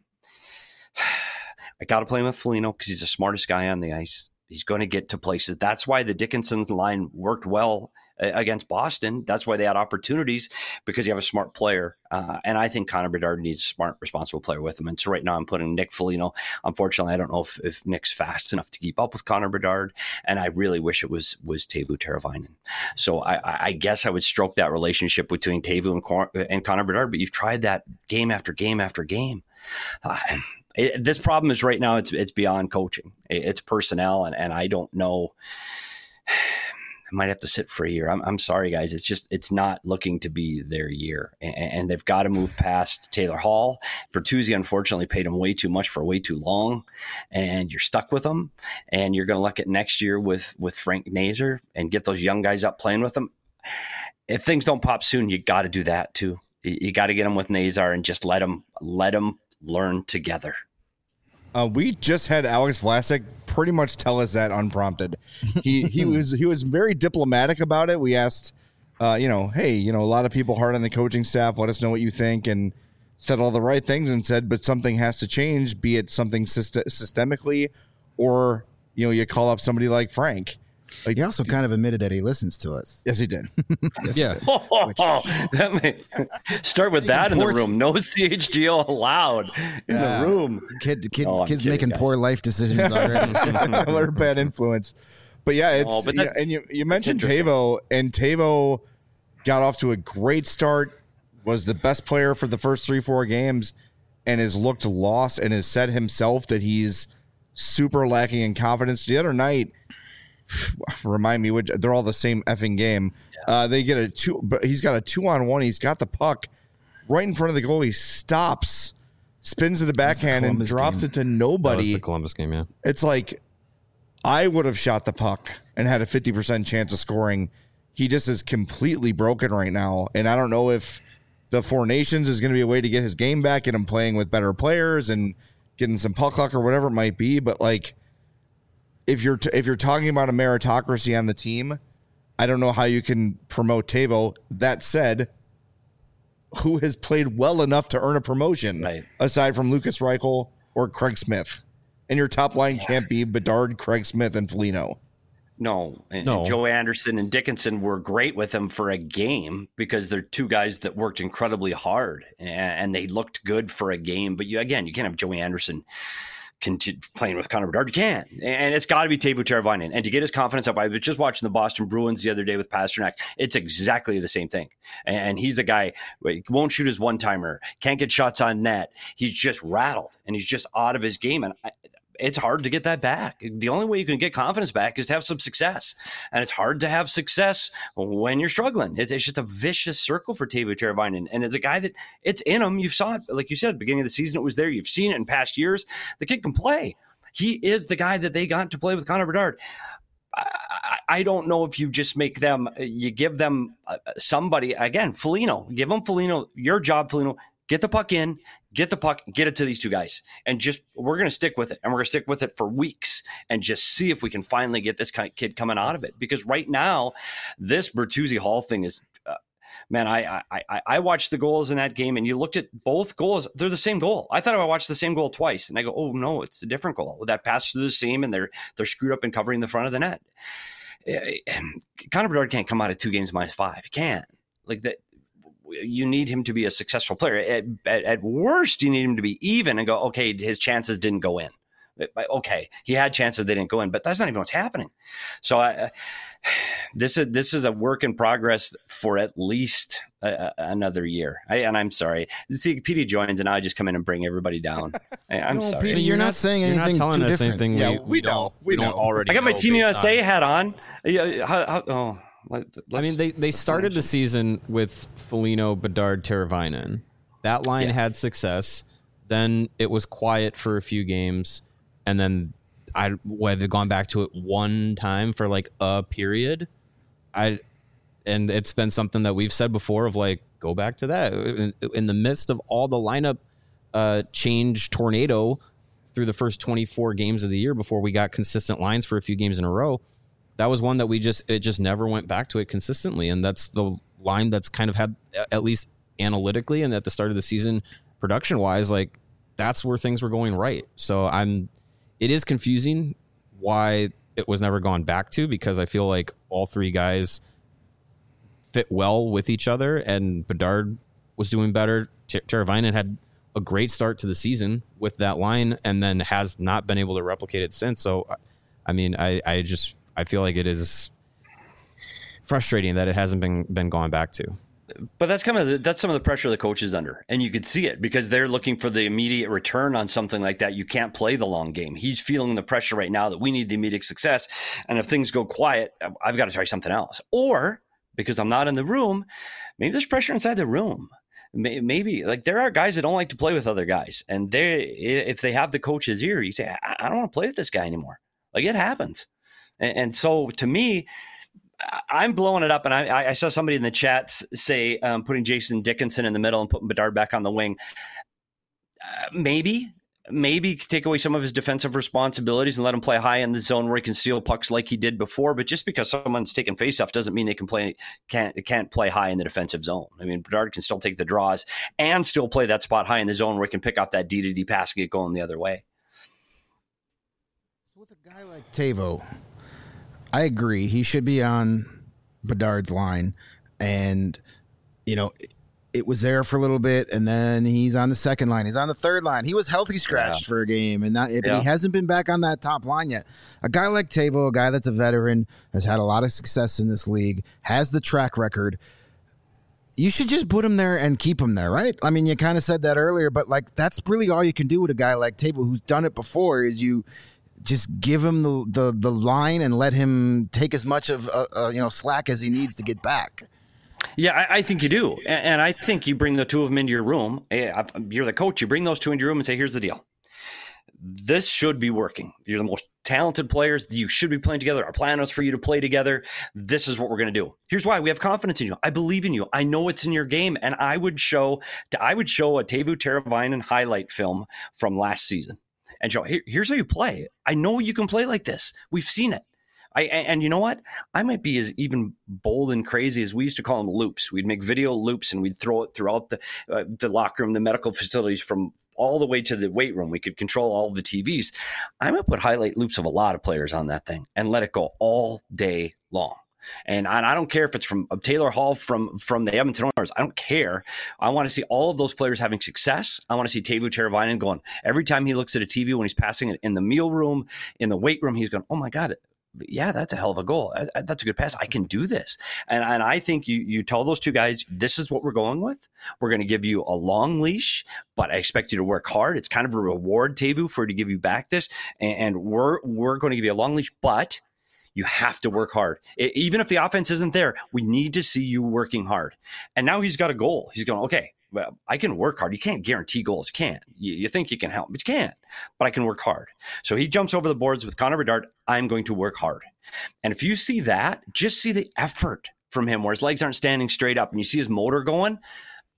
got to play him with Foligno because he's the smartest guy on the ice. He's going to get to places. That's why the Dickinson line worked well against Boston. That's why they had opportunities, because you have a smart player. And I think Connor Bedard needs a smart, responsible player with him. And so right now I'm putting Nick Foligno. Unfortunately, I don't know if Nick's fast enough to keep up with Connor Bedard. And I really wish it was Teuvo Teravainen. So I guess I would stroke that relationship between Teuvo and Connor Bedard. But you've tried that game after game after game. This problem is right now it's beyond coaching. It's personnel, and I don't know. I might have to sit for a year. I'm sorry, guys. It's not looking to be their year, and they've got to move past Taylor Hall. Bertuzzi, unfortunately, paid him way too much for way too long, and you're stuck with him. And you're going to look at next year with Frank Nazar and get those young guys up playing with them. If things don't pop soon, you got to do that too. You got to get them with Nazar and just let them learn together. We just had Alex Vlasic pretty much tell us that unprompted. He was very diplomatic about it. We asked, hey, a lot of people hard on the coaching staff. Let us know what you think, and said all the right things and said, but something has to change. Be it something systemically, or you call up somebody like Frank. He also kind of admitted that he listens to us. Yes, he did. Yeah. Start with that in the room. No CHGO allowed in the room. Kids making poor life decisions already. What a bad influence. But yeah, and you mentioned Teuvo, and Teuvo got off to a great start, was the best player for the first 3-4 games, and has looked lost and has said himself that he's super lacking in confidence. The other night, remind me, they're all the same effing game. Yeah. They get a 2, but he's got a 2-on-1. He's got the puck right in front of the goal. He stops, spins to the backhand, and drops it to nobody. That was the Columbus game, yeah. It's like, I would have shot the puck and had a 50% chance of scoring. He just is completely broken right now. And I don't know if the Four Nations is going to be a way to get his game back, get him playing with better players and getting some puck luck or whatever it might be. But like, if you're talking about a meritocracy on the team, I don't know how you can promote Teuvo. That said, who has played well enough to earn a promotion aside from Lucas Reichel or Craig Smith? And your top line can't be Bedard, Craig Smith, and Foligno. No. Joe Anderson and Dickinson were great with him for a game because they're 2 guys that worked incredibly hard and they looked good for a game. But you can't have Joey Anderson playing with Connor Bedard. You can. And it's got to be Teuvo Teravainen. And to get his confidence up, I was just watching the Boston Bruins the other day with Pasternak. It's exactly the same thing. And he's a guy who won't shoot his one-timer, can't get shots on net. He's just rattled, and he's just out of his game. And it's hard to get that back. The only way you can get confidence back is to have some success. And it's hard to have success when you're struggling. It's just a vicious circle for Teuvo Teravainen. And as a guy that it's in him, you saw it, like you said, beginning of the season, it was there. You've seen it in past years. The kid can play. He is the guy that they got to play with Connor Bedard. I don't know if you just make them, you give them somebody, again, Foligno, give them Foligno, your job, Foligno, Get the puck in, get it to these two guys. And we're going to stick with it. And we're going to stick with it for weeks and just see if we can finally get this kid coming out of it. Because right now, this Bertuzzi Hall thing is, man, I watched the goals in that game, and you looked at both goals. They're the same goal. I thought I watched the same goal twice. And I go, oh, no, it's a different goal. That pass through the seam, and they're screwed up in covering the front of the net. Connor Bedard can't come out of 2 games -5. He can't. Like that. You need him to be a successful player. At worst, you need him to be even and go, okay, his chances didn't go in. Okay, he had chances, they didn't go in, but that's not even what's happening. So this is a work in progress for at least another year. I'm sorry. See, PD joins, and I just come in and bring everybody down. I'm sorry. PD, you're not saying anything telling too us different. anything Yeah, we don't already. I got my know Team based USA on- hat on. I mean, they started the season with Foligno, Bedard, Teravainen. That line had success. Then it was quiet for a few games, and then they've gone back to it one time for like a period. And it's been something that we've said before of like, go back to that. In the midst of all the lineup change tornado through the first 24 games of the year before we got consistent lines for a few games in a row, that was one that it just never went back to it consistently. And that's the line that's kind of had, at least analytically and at the start of the season, production wise, like that's where things were going right. So it is confusing why it was never gone back to, because I feel like all 3 guys fit well with each other, and Bedard was doing better. Teravainen had a great start to the season with that line, and then has not been able to replicate it since. So, I mean, I feel like it is frustrating that it hasn't been gone back to. But that's some of the pressure the coach is under, and you could see it because they're looking for the immediate return on something like that. You can't play the long game. He's feeling the pressure right now that we need the immediate success, and if things go quiet, I've got to try something else. Or because I'm not in the room, maybe there's pressure inside the room. Maybe like there are guys that don't like to play with other guys, and if they have the coach's ear, you say, I don't want to play with this guy anymore. Like it happens. And so to me, I'm blowing it up. And I saw somebody in the chat say putting Jason Dickinson in the middle and putting Bedard back on the wing. Maybe take away some of his defensive responsibilities and let him play high in the zone where he can steal pucks like he did before. But just because someone's taking faceoff doesn't mean they can't play high in the defensive zone. I mean, Bedard can still take the draws and still play that spot high in the zone where he can pick up that D-to-D pass and get going the other way. So with a guy like Teuvo, I agree. He should be on Bedard's line, and it was there for a little bit, and then he's on the second line. He's on the third line. He was healthy scratched for a game, but he hasn't been back on that top line yet. A guy like Teuvo, a guy that's a veteran, has had a lot of success in this league, has the track record. You should just put him there and keep him there, right? I mean, you kind of said that earlier, but like that's really all you can do with a guy like Teuvo, who's done it before, is you just give him the line and let him take as much of slack as he needs to get back. Yeah, I think you do. And I think you bring the two of them into your room. You're the coach. You bring those two into your room and say, here's the deal. This should be working. You're the most talented players. You should be playing together. Our plan is for you to play together. This is what we're going to do. Here's why. We have confidence in you. I believe in you. I know it's in your game. And I would show a Teuvo Teravainen highlight film from last season and show, here's how you play. I know you can play like this. We've seen it. And you know what? I might be as even bold and crazy as we used to call them loops. We'd make video loops and we'd throw it throughout the locker room, the medical facilities, from all the way to the weight room. We could control all the TVs. I might put highlight loops of a lot of players on that thing and let it go all day long. And I don't care if it's from Taylor Hall from the Edmonton Oilers. I don't care. I want to see all of those players having success. I want to see Teuvo Teravainen going, every time he looks at a TV when he's passing it in the meal room, in the weight room, he's going, oh my God, yeah, that's a hell of a goal. That's a good pass. I can do this. And I think you tell those two guys, this is what we're going with. We're going to give you a long leash, but I expect you to work hard. It's kind of a reward, Teuvo, for to give you back this. And we're going to give you a long leash, but you have to work hard. Even if the offense isn't there, we need to see you working hard. And now he's got a goal. He's going, okay, well, I can work hard. You can't guarantee goals. You can't. You think you can help, but you can't. But I can work hard. So he jumps over the boards with Connor Bedard. I'm going to work hard. And if you see that, just see the effort from him where his legs aren't standing straight up and you see his motor going.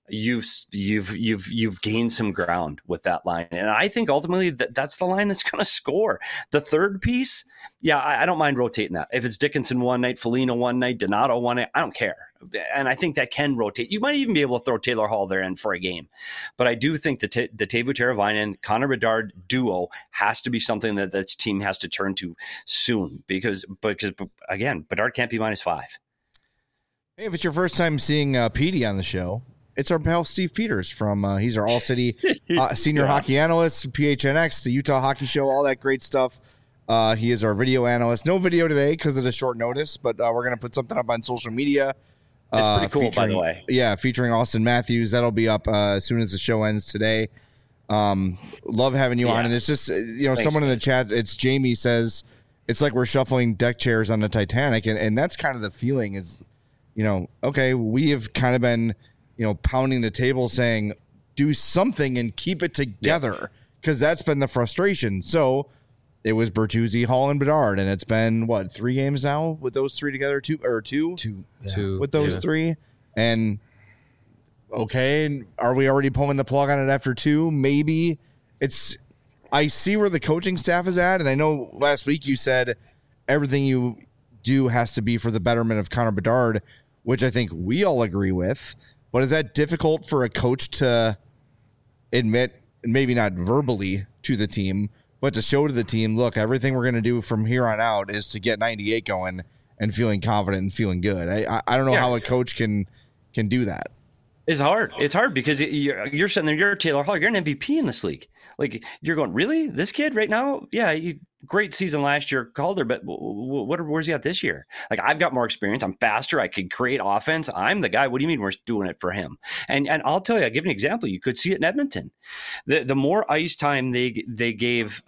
you've gained some ground with that line. And I think ultimately that's the line that's going to score. The third piece, yeah, I don't mind rotating that. If it's Dickinson one night, Foligno one night, Donato one night, I don't care. And I think that can rotate. You might even be able to throw Taylor Hall there in for a game. But I do think the Teuvo Teravainen, Connor Bedard duo has to be something that this team has to turn to soon. Because again, Bedard can't be -5. Hey, if it's your first time seeing Petey on the show, it's our pal Steve Peters from he's our All City senior hockey analyst, PHNX, the Utah Hockey Show, all that great stuff. He is our video analyst. No video today because of the short notice, but we're going to put something up on social media. It's pretty cool, by the way. Yeah, featuring Austin Matthews. That'll be up as soon as the show ends today. Love having you on. And it's just, Thanks, someone in the chat, it's Jamie says, it's like we're shuffling deck chairs on the Titanic. And that's kind of the feeling is, okay, we have kind of been pounding the table saying, do something and keep it together because that's been the frustration. So it was Bertuzzi, Hall, and Bedard, and it's been, 3 games now with those three together? Two with those three? And, okay, are we already pulling the plug on it after 2? Maybe. I see where the coaching staff is at, and I know last week you said everything you do has to be for the betterment of Connor Bedard, which I think we all agree with. But is that difficult for a coach to admit, maybe not verbally to the team, but to show to the team, look, everything we're going to do from here on out is to get 98 going and feeling confident and feeling good. I don't know how a coach can do that. It's hard. It's hard because you're sitting there, you're Taylor Hall, you're an MVP in this league. Like, you're going, really? This kid right now? Yeah, great season last year, Calder, but where's he at this year? Like, I've got more experience. I'm faster. I can create offense. I'm the guy. What do you mean we're doing it for him? And I'll tell you, I'll give you an example. You could see it in Edmonton. The more ice time they gave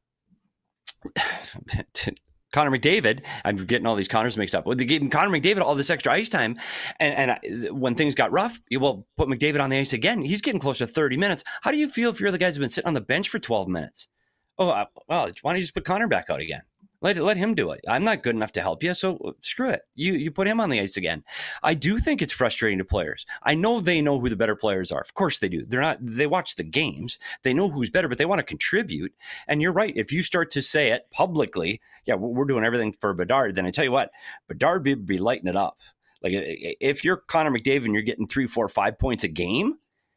Connor McDavid, I'm getting all these Connors mixed up. They gave Connor McDavid all this extra ice time, and when things got rough, put McDavid on the ice again. He's getting close to 30 minutes. How do you feel if you're the guys who've been sitting on the bench for 12 minutes? Oh, well, why don't you just put Connor back out again? Let him do it. I'm not good enough to help you, so screw it. You put him on the ice again. I do think it's frustrating to players. I know they know who the better players are. Of course they do. They watch the games. They know who's better, but they want to contribute. And you're right. If you start to say it publicly, yeah, we're doing everything for Bedard, then I tell you what, Bedard would be lighting it up. Like, if you're Connor McDavid and you're getting 3, 4, 5 points a game,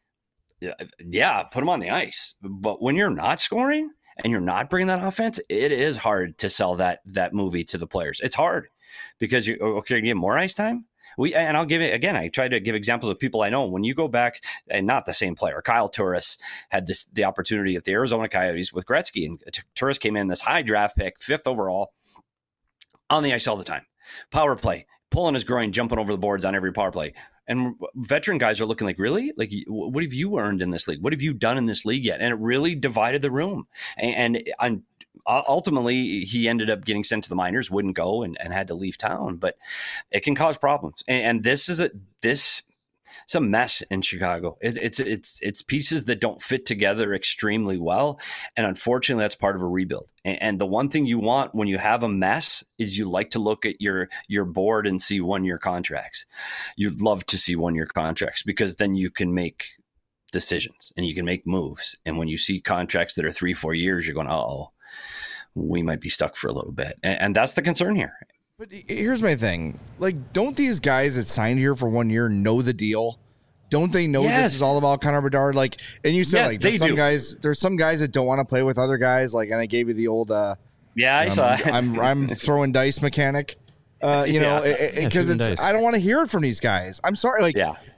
yeah, put him on the ice. But when you're not scoring and you're not bringing that offense, it is hard to sell that movie to the players. It's hard because you give more ice time. And I'll give it again. I try to give examples of people I know. When you go back, and not the same player, Kyle Turris had the opportunity at the Arizona Coyotes with Gretzky, and Turris came in this high draft pick, 5th overall, on the ice all the time. Power play, pulling his groin, jumping over the boards on every power play. And veteran guys are looking like, really? Like, what have you earned in this league? What have you done in this league yet? And it really divided the room. And ultimately, he ended up getting sent to the minors, wouldn't go, and had to leave town. But it can cause problems. And this is it's a mess in Chicago. It's pieces that don't fit together extremely well. And unfortunately, that's part of a rebuild. And the one thing you want when you have a mess is you like to look at your board and see 1-year contracts. You'd love to see 1-year contracts because then you can make decisions and you can make moves. And when you see contracts that are 3-4 years, you're going, uh-oh, we might be stuck for a little bit. And that's the concern here. But here's my thing. Like, don't these guys that signed here for 1 year know the deal? Don't they know this is all about Connor Bedard? Like, and you said, there's some guys that don't want to play with other guys. Like, and I gave you the old, I saw it. I'm throwing dice mechanic, because I don't want to hear it from these guys. I'm sorry. Like,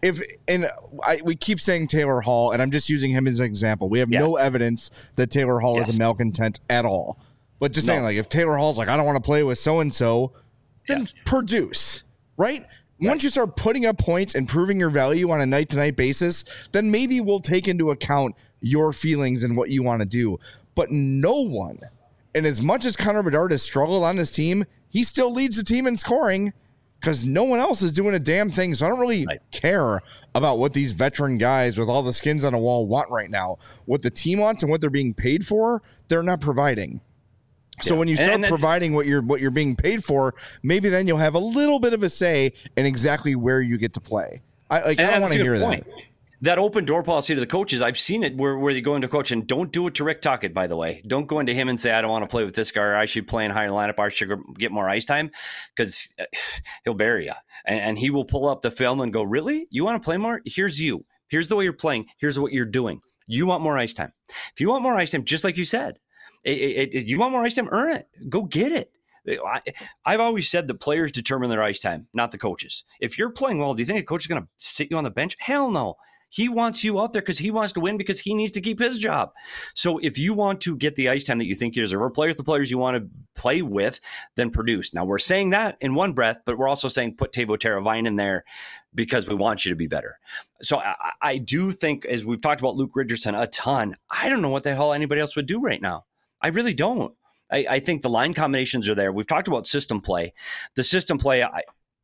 we keep saying Taylor Hall, and I'm just using him as an example. We have no evidence that Taylor Hall is a malcontent at all. But just saying, like, if Taylor Hall's like, I don't want to play with so-and-so, then produce, right? Once you start putting up points and proving your value on a night-to-night basis, then maybe we'll take into account your feelings and what you want to do. But no one, and as much as Connor Bedard has struggled on this team, he still leads the team in scoring because no one else is doing a damn thing. So I don't really care about what these veteran guys with all the skins on a wall want right now. What the team wants and what they're being paid for, they're not providing. So when you start providing what you're being paid for, maybe then you'll have a little bit of a say in exactly where you get to play. I don't want to hear that. that open door policy to the coaches, I've seen it where they go into coach, and don't do it to Rick Tocchet, by the way. Don't go into him and say, I don't want to play with this guy, or I should play in higher lineup, I should get more ice time, because he'll bury you. And he will pull up the film and go, really? You want to play more? Here's you. Here's the way you're playing. Here's what you're doing. You want more ice time. If you want more ice time, just like you said, you want more ice time, earn it. Go get it. I've always said the players determine their ice time, not the coaches. If you're playing well, do you think a coach is going to sit you on the bench? Hell no. He wants you out there because he wants to win, because he needs to keep his job. So if you want to get the ice time that you think you deserve, or play with the players you want to play with, then produce. Now, we're saying that in one breath, but we're also saying put Teuvo Teravainen in there because we want you to be better. So I do think, as we've talked about Luke Richardson a ton, I don't know what the hell anybody else would do right now. I really don't. I think the line combinations are there. We've talked about system play. The system play, I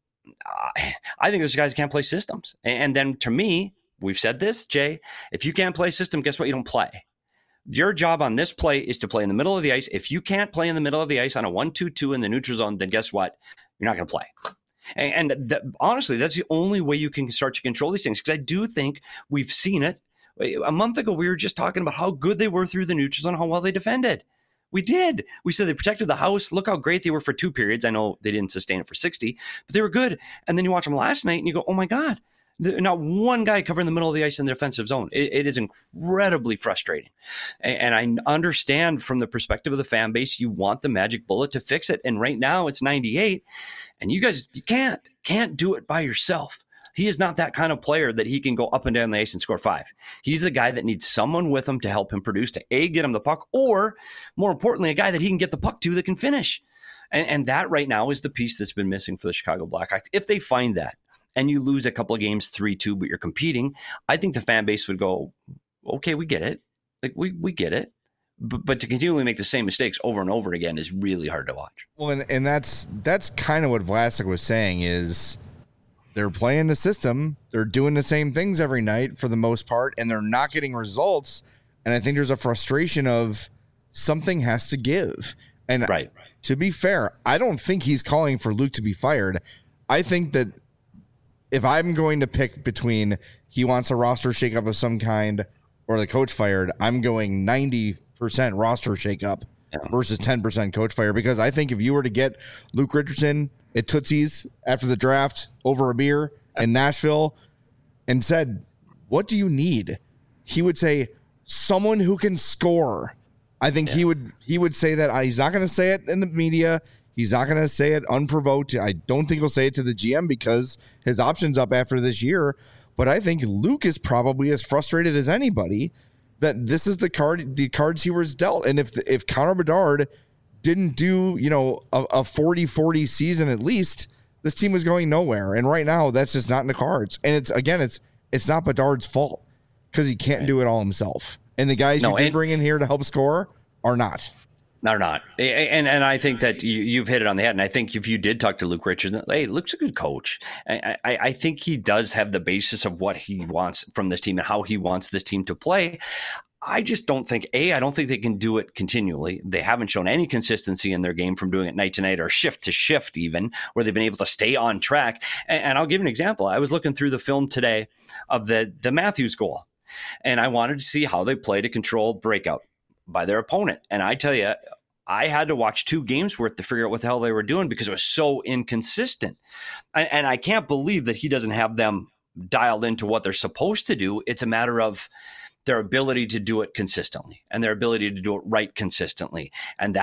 think those guys can't play systems. And then to me, we've said this, Jay, if you can't play system, guess what? You don't play. Your job on this play is to play in the middle of the ice. If you can't play in the middle of the ice on a 1-2-2 in the neutral zone, then guess what? You're not going to play. And honestly, that's the only way you can start to control these things, because I do think we've seen it. A month ago, we were just talking about how good they were through the neutral zone, how well they defended. We did. We said they protected the house. Look how great they were for 2 periods. I know they didn't sustain it for 60, but they were good. And then you watch them last night and you go, oh my God, not one guy covering the middle of the ice in the defensive zone. It is incredibly frustrating. And I understand from the perspective of the fan base, you want the magic bullet to fix it. And right now it's 98. And you guys, you can't do it by yourself. He is not that kind of player that he can go up and down the ice and score 5. He's the guy that needs someone with him to help him produce, to get him the puck, or more importantly, a guy that he can get the puck to that can finish. And that right now is the piece that's been missing for the Chicago Blackhawks. If they find that, and you lose a couple of games 3-2, but you're competing, I think the fan base would go, okay, we get it. Like we get it. But to continually make the same mistakes over and over again is really hard to watch. Well, and that's kind of what Vlasic was saying is they're playing the system. They're doing the same things every night for the most part, and they're not getting results. And I think there's a frustration of something has to give. And right. To be fair, I don't think he's calling for Luke to be fired. I think that if I'm going to pick between he wants a roster shakeup of some kind or the coach fired, I'm going 90% roster shakeup versus 10% coach fire, because I think if you were to get Luke Richardson at Tootsie's after the draft over a beer in Nashville and said, what do you need? He would say, someone who can score. I think he would say that. He's not going to say it in the media. He's not going to say it unprovoked. I don't think he'll say it to the GM because his option's up after this year. But I think Luke is probably as frustrated as anybody that this is the cards he was dealt. And if Connor Bedard didn't do, a 40-40 season at least, this team was going nowhere. And right now, that's just not in the cards. And it's not Bedard's fault because he can't do it all himself. And the guys you bring in here to help score are not. They're not. And I think that you've hit it on the head. And I think if you did talk to Luke Richardson, hey, Luke's a good coach. I think he does have the basis of what he wants from this team and how he wants this team to play. I just don't think, I don't think they can do it continually. They haven't shown any consistency in their game from doing it night to night or shift to shift even, where they've been able to stay on track. And I'll give you an example. I was looking through the film today of the Matthews goal, and I wanted to see how they play to control breakout by their opponent. And I tell you, I had to watch 2 games worth to figure out what the hell they were doing because it was so inconsistent. And I can't believe that he doesn't have them dialed into what they're supposed to do. It's a matter of their ability to do it consistently and their ability to do it right consistently. And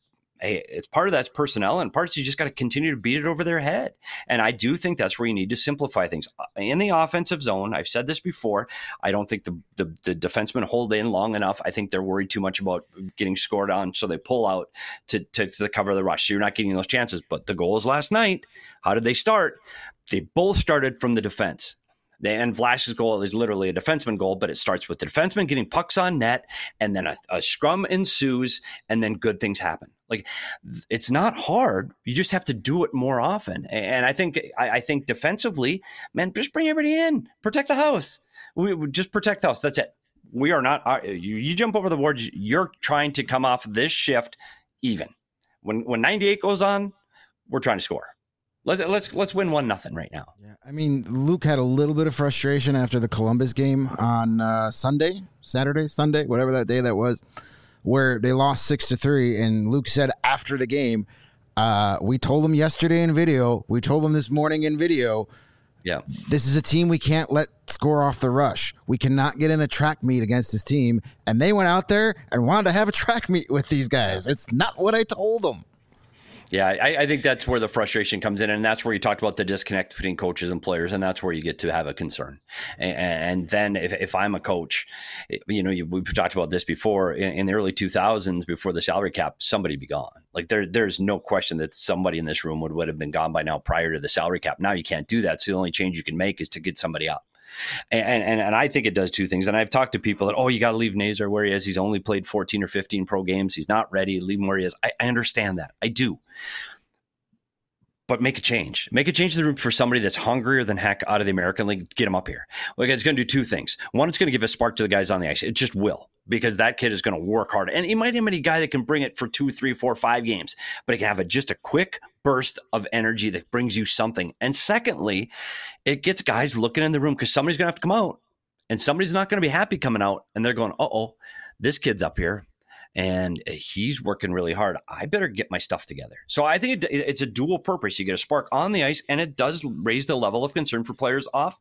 it's part of that's personnel, and parts you just got to continue to beat it over their head. And I do think that's where you need to simplify things. In the offensive zone, I've said this before, I don't think the defensemen hold in long enough. I think they're worried too much about getting scored on, so they pull out to cover the rush. So you're not getting those chances. But the goals last night, how did they start? They both started from the defense. And Vlasich's goal is literally a defenseman goal, but it starts with the defenseman getting pucks on net, and then a scrum ensues, and then good things happen. Like, it's not hard. You just have to do it more often. And I think defensively, man, just bring everybody in, protect the house. We just protect the house. That's it. We are not. You jump over the boards. You're trying to come off this shift even. When 98 goes on, we're trying to score. Let's win 1-0 right now. Yeah, I mean, Luke had a little bit of frustration after the Columbus game on Sunday, whatever that day that was, where they lost 6-3. And Luke said after the game, we told him yesterday in video, we told him this morning in video, yeah, this is a team we can't let score off the rush. We cannot get in a track meet against this team. And they went out there and wanted to have a track meet with these guys. It's not what I told them. Yeah, I think that's where the frustration comes in, and that's where you talked about the disconnect between coaches and players, and that's where you get to have a concern. And then if I'm a coach, we've talked about this before, in the early 2000s, before the salary cap, somebody be gone. Like there's no question that somebody in this room would have been gone by now prior to the salary cap. Now you can't do that, so the only change you can make is to get somebody up. And I think it does two things. And I've talked to people that, you got to leave Nazar where he is. He's only played 14 or 15 pro games. He's not ready. Leave him where he is. I understand that. I do. But make a change. Make a change in the room for somebody that's hungrier than heck out of the American League. Get him up here. Like, it's going to do two things. One, it's going to give a spark to the guys on the ice. It just will, because that kid is going to work hard. And he might have a guy that can bring it for 2, 3, 4, 5 games, but he can have just a quick burst of energy that brings you something. And secondly, it gets guys looking in the room, because somebody's going to have to come out, and somebody's not going to be happy coming out. And they're going, this kid's up here and he's working really hard. I better get my stuff together. So I think it's a dual purpose. You get a spark on the ice, and it does raise the level of concern for players on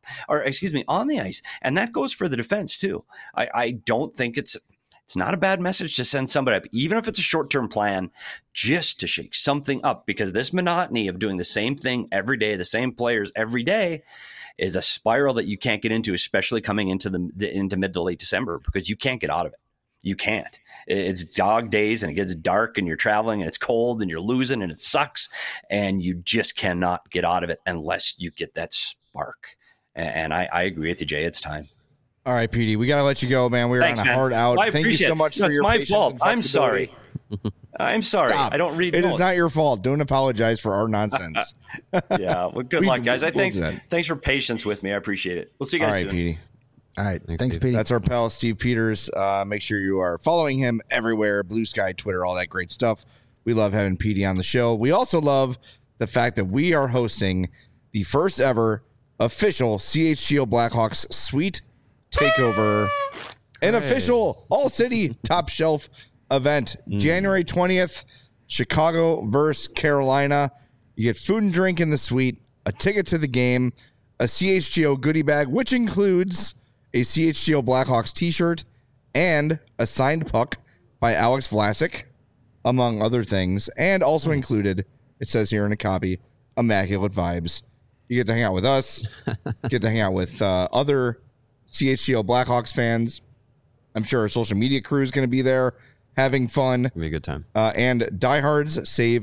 the ice. And that goes for the defense too. I don't think it's not a bad message to send somebody up, even if it's a short-term plan, just to shake something up, because this monotony of doing the same thing every day, the same players every day, is a spiral that you can't get into, especially coming into mid to late December, because you can't get out of it. You can't. It's dog days, and it gets dark, and you're traveling, and it's cold, and you're losing, and it sucks, and you just cannot get out of it unless you get that spark. And I agree with you, Jay. It's time. All right, PD, we got to let you go, man. We're on a hard out. Thank you so much for your patience. It's my fault. I'm sorry. I'm sorry. Stop. I don't read notes. It is not your fault. Don't apologize for our nonsense. Yeah. Well, good luck, guys. Thanks for patience with me. I appreciate it. We'll see you guys soon. All right, PD. All right. Thanks, Pete. That's our pal, Steve Peters. Make sure you are following him everywhere. Blue Sky, Twitter, all that great stuff. We love having PD on the show. We also love the fact that we are hosting the first ever official CHGO Blackhawks Suite Takeover, an official all-city top shelf event. January 20th, Chicago versus Carolina. You get food and drink in the suite, a ticket to the game, a CHGO goodie bag, which includes a CHGO Blackhawks t-shirt and a signed puck by Alex Vlasic, among other things. And also included, it says here in a copy, Immaculate Vibes. You get to hang out with us, get to hang out with other CHGO Blackhawks fans. I'm sure our social media crew is going to be there having fun. It'll be a good time. And diehards save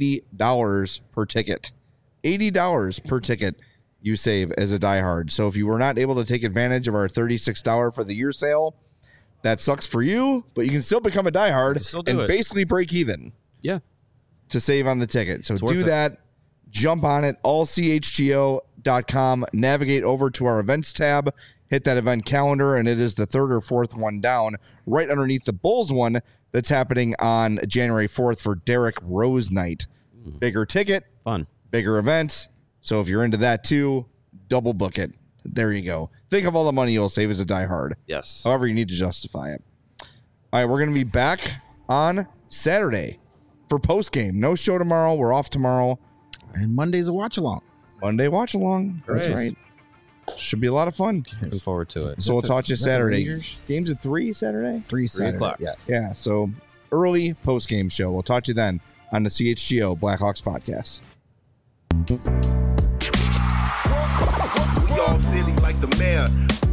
$80 per ticket. $80 per ticket you save as a diehard. So if you were not able to take advantage of our $36 for the year sale, that sucks for you, but you can still become a diehard and basically break even. Yeah. To save on the ticket. So do that. Jump on it, allchgo.com, navigate over to our events tab, hit that event calendar, and it is the third or fourth one down, right underneath the Bulls one that's happening on January 4th for Derrick Rose Night. Bigger ticket, fun, bigger event. So if you're into that too, double book it. There you go. Think of all the money you'll save as a diehard. Yes. However, you need to justify it. All right, we're going to be back on Saturday for postgame. No show tomorrow. We're off tomorrow. And Monday's a watch along. Monday watch along. That's right. Should be a lot of fun. Looking forward to it. So we'll talk to you Saturday. Games at 3 Saturday? 3 Saturday. 3 o'clock. Yeah. So early post game show. We'll talk to you then on the CHGO Blackhawks podcast. Y'all silly like the mayor.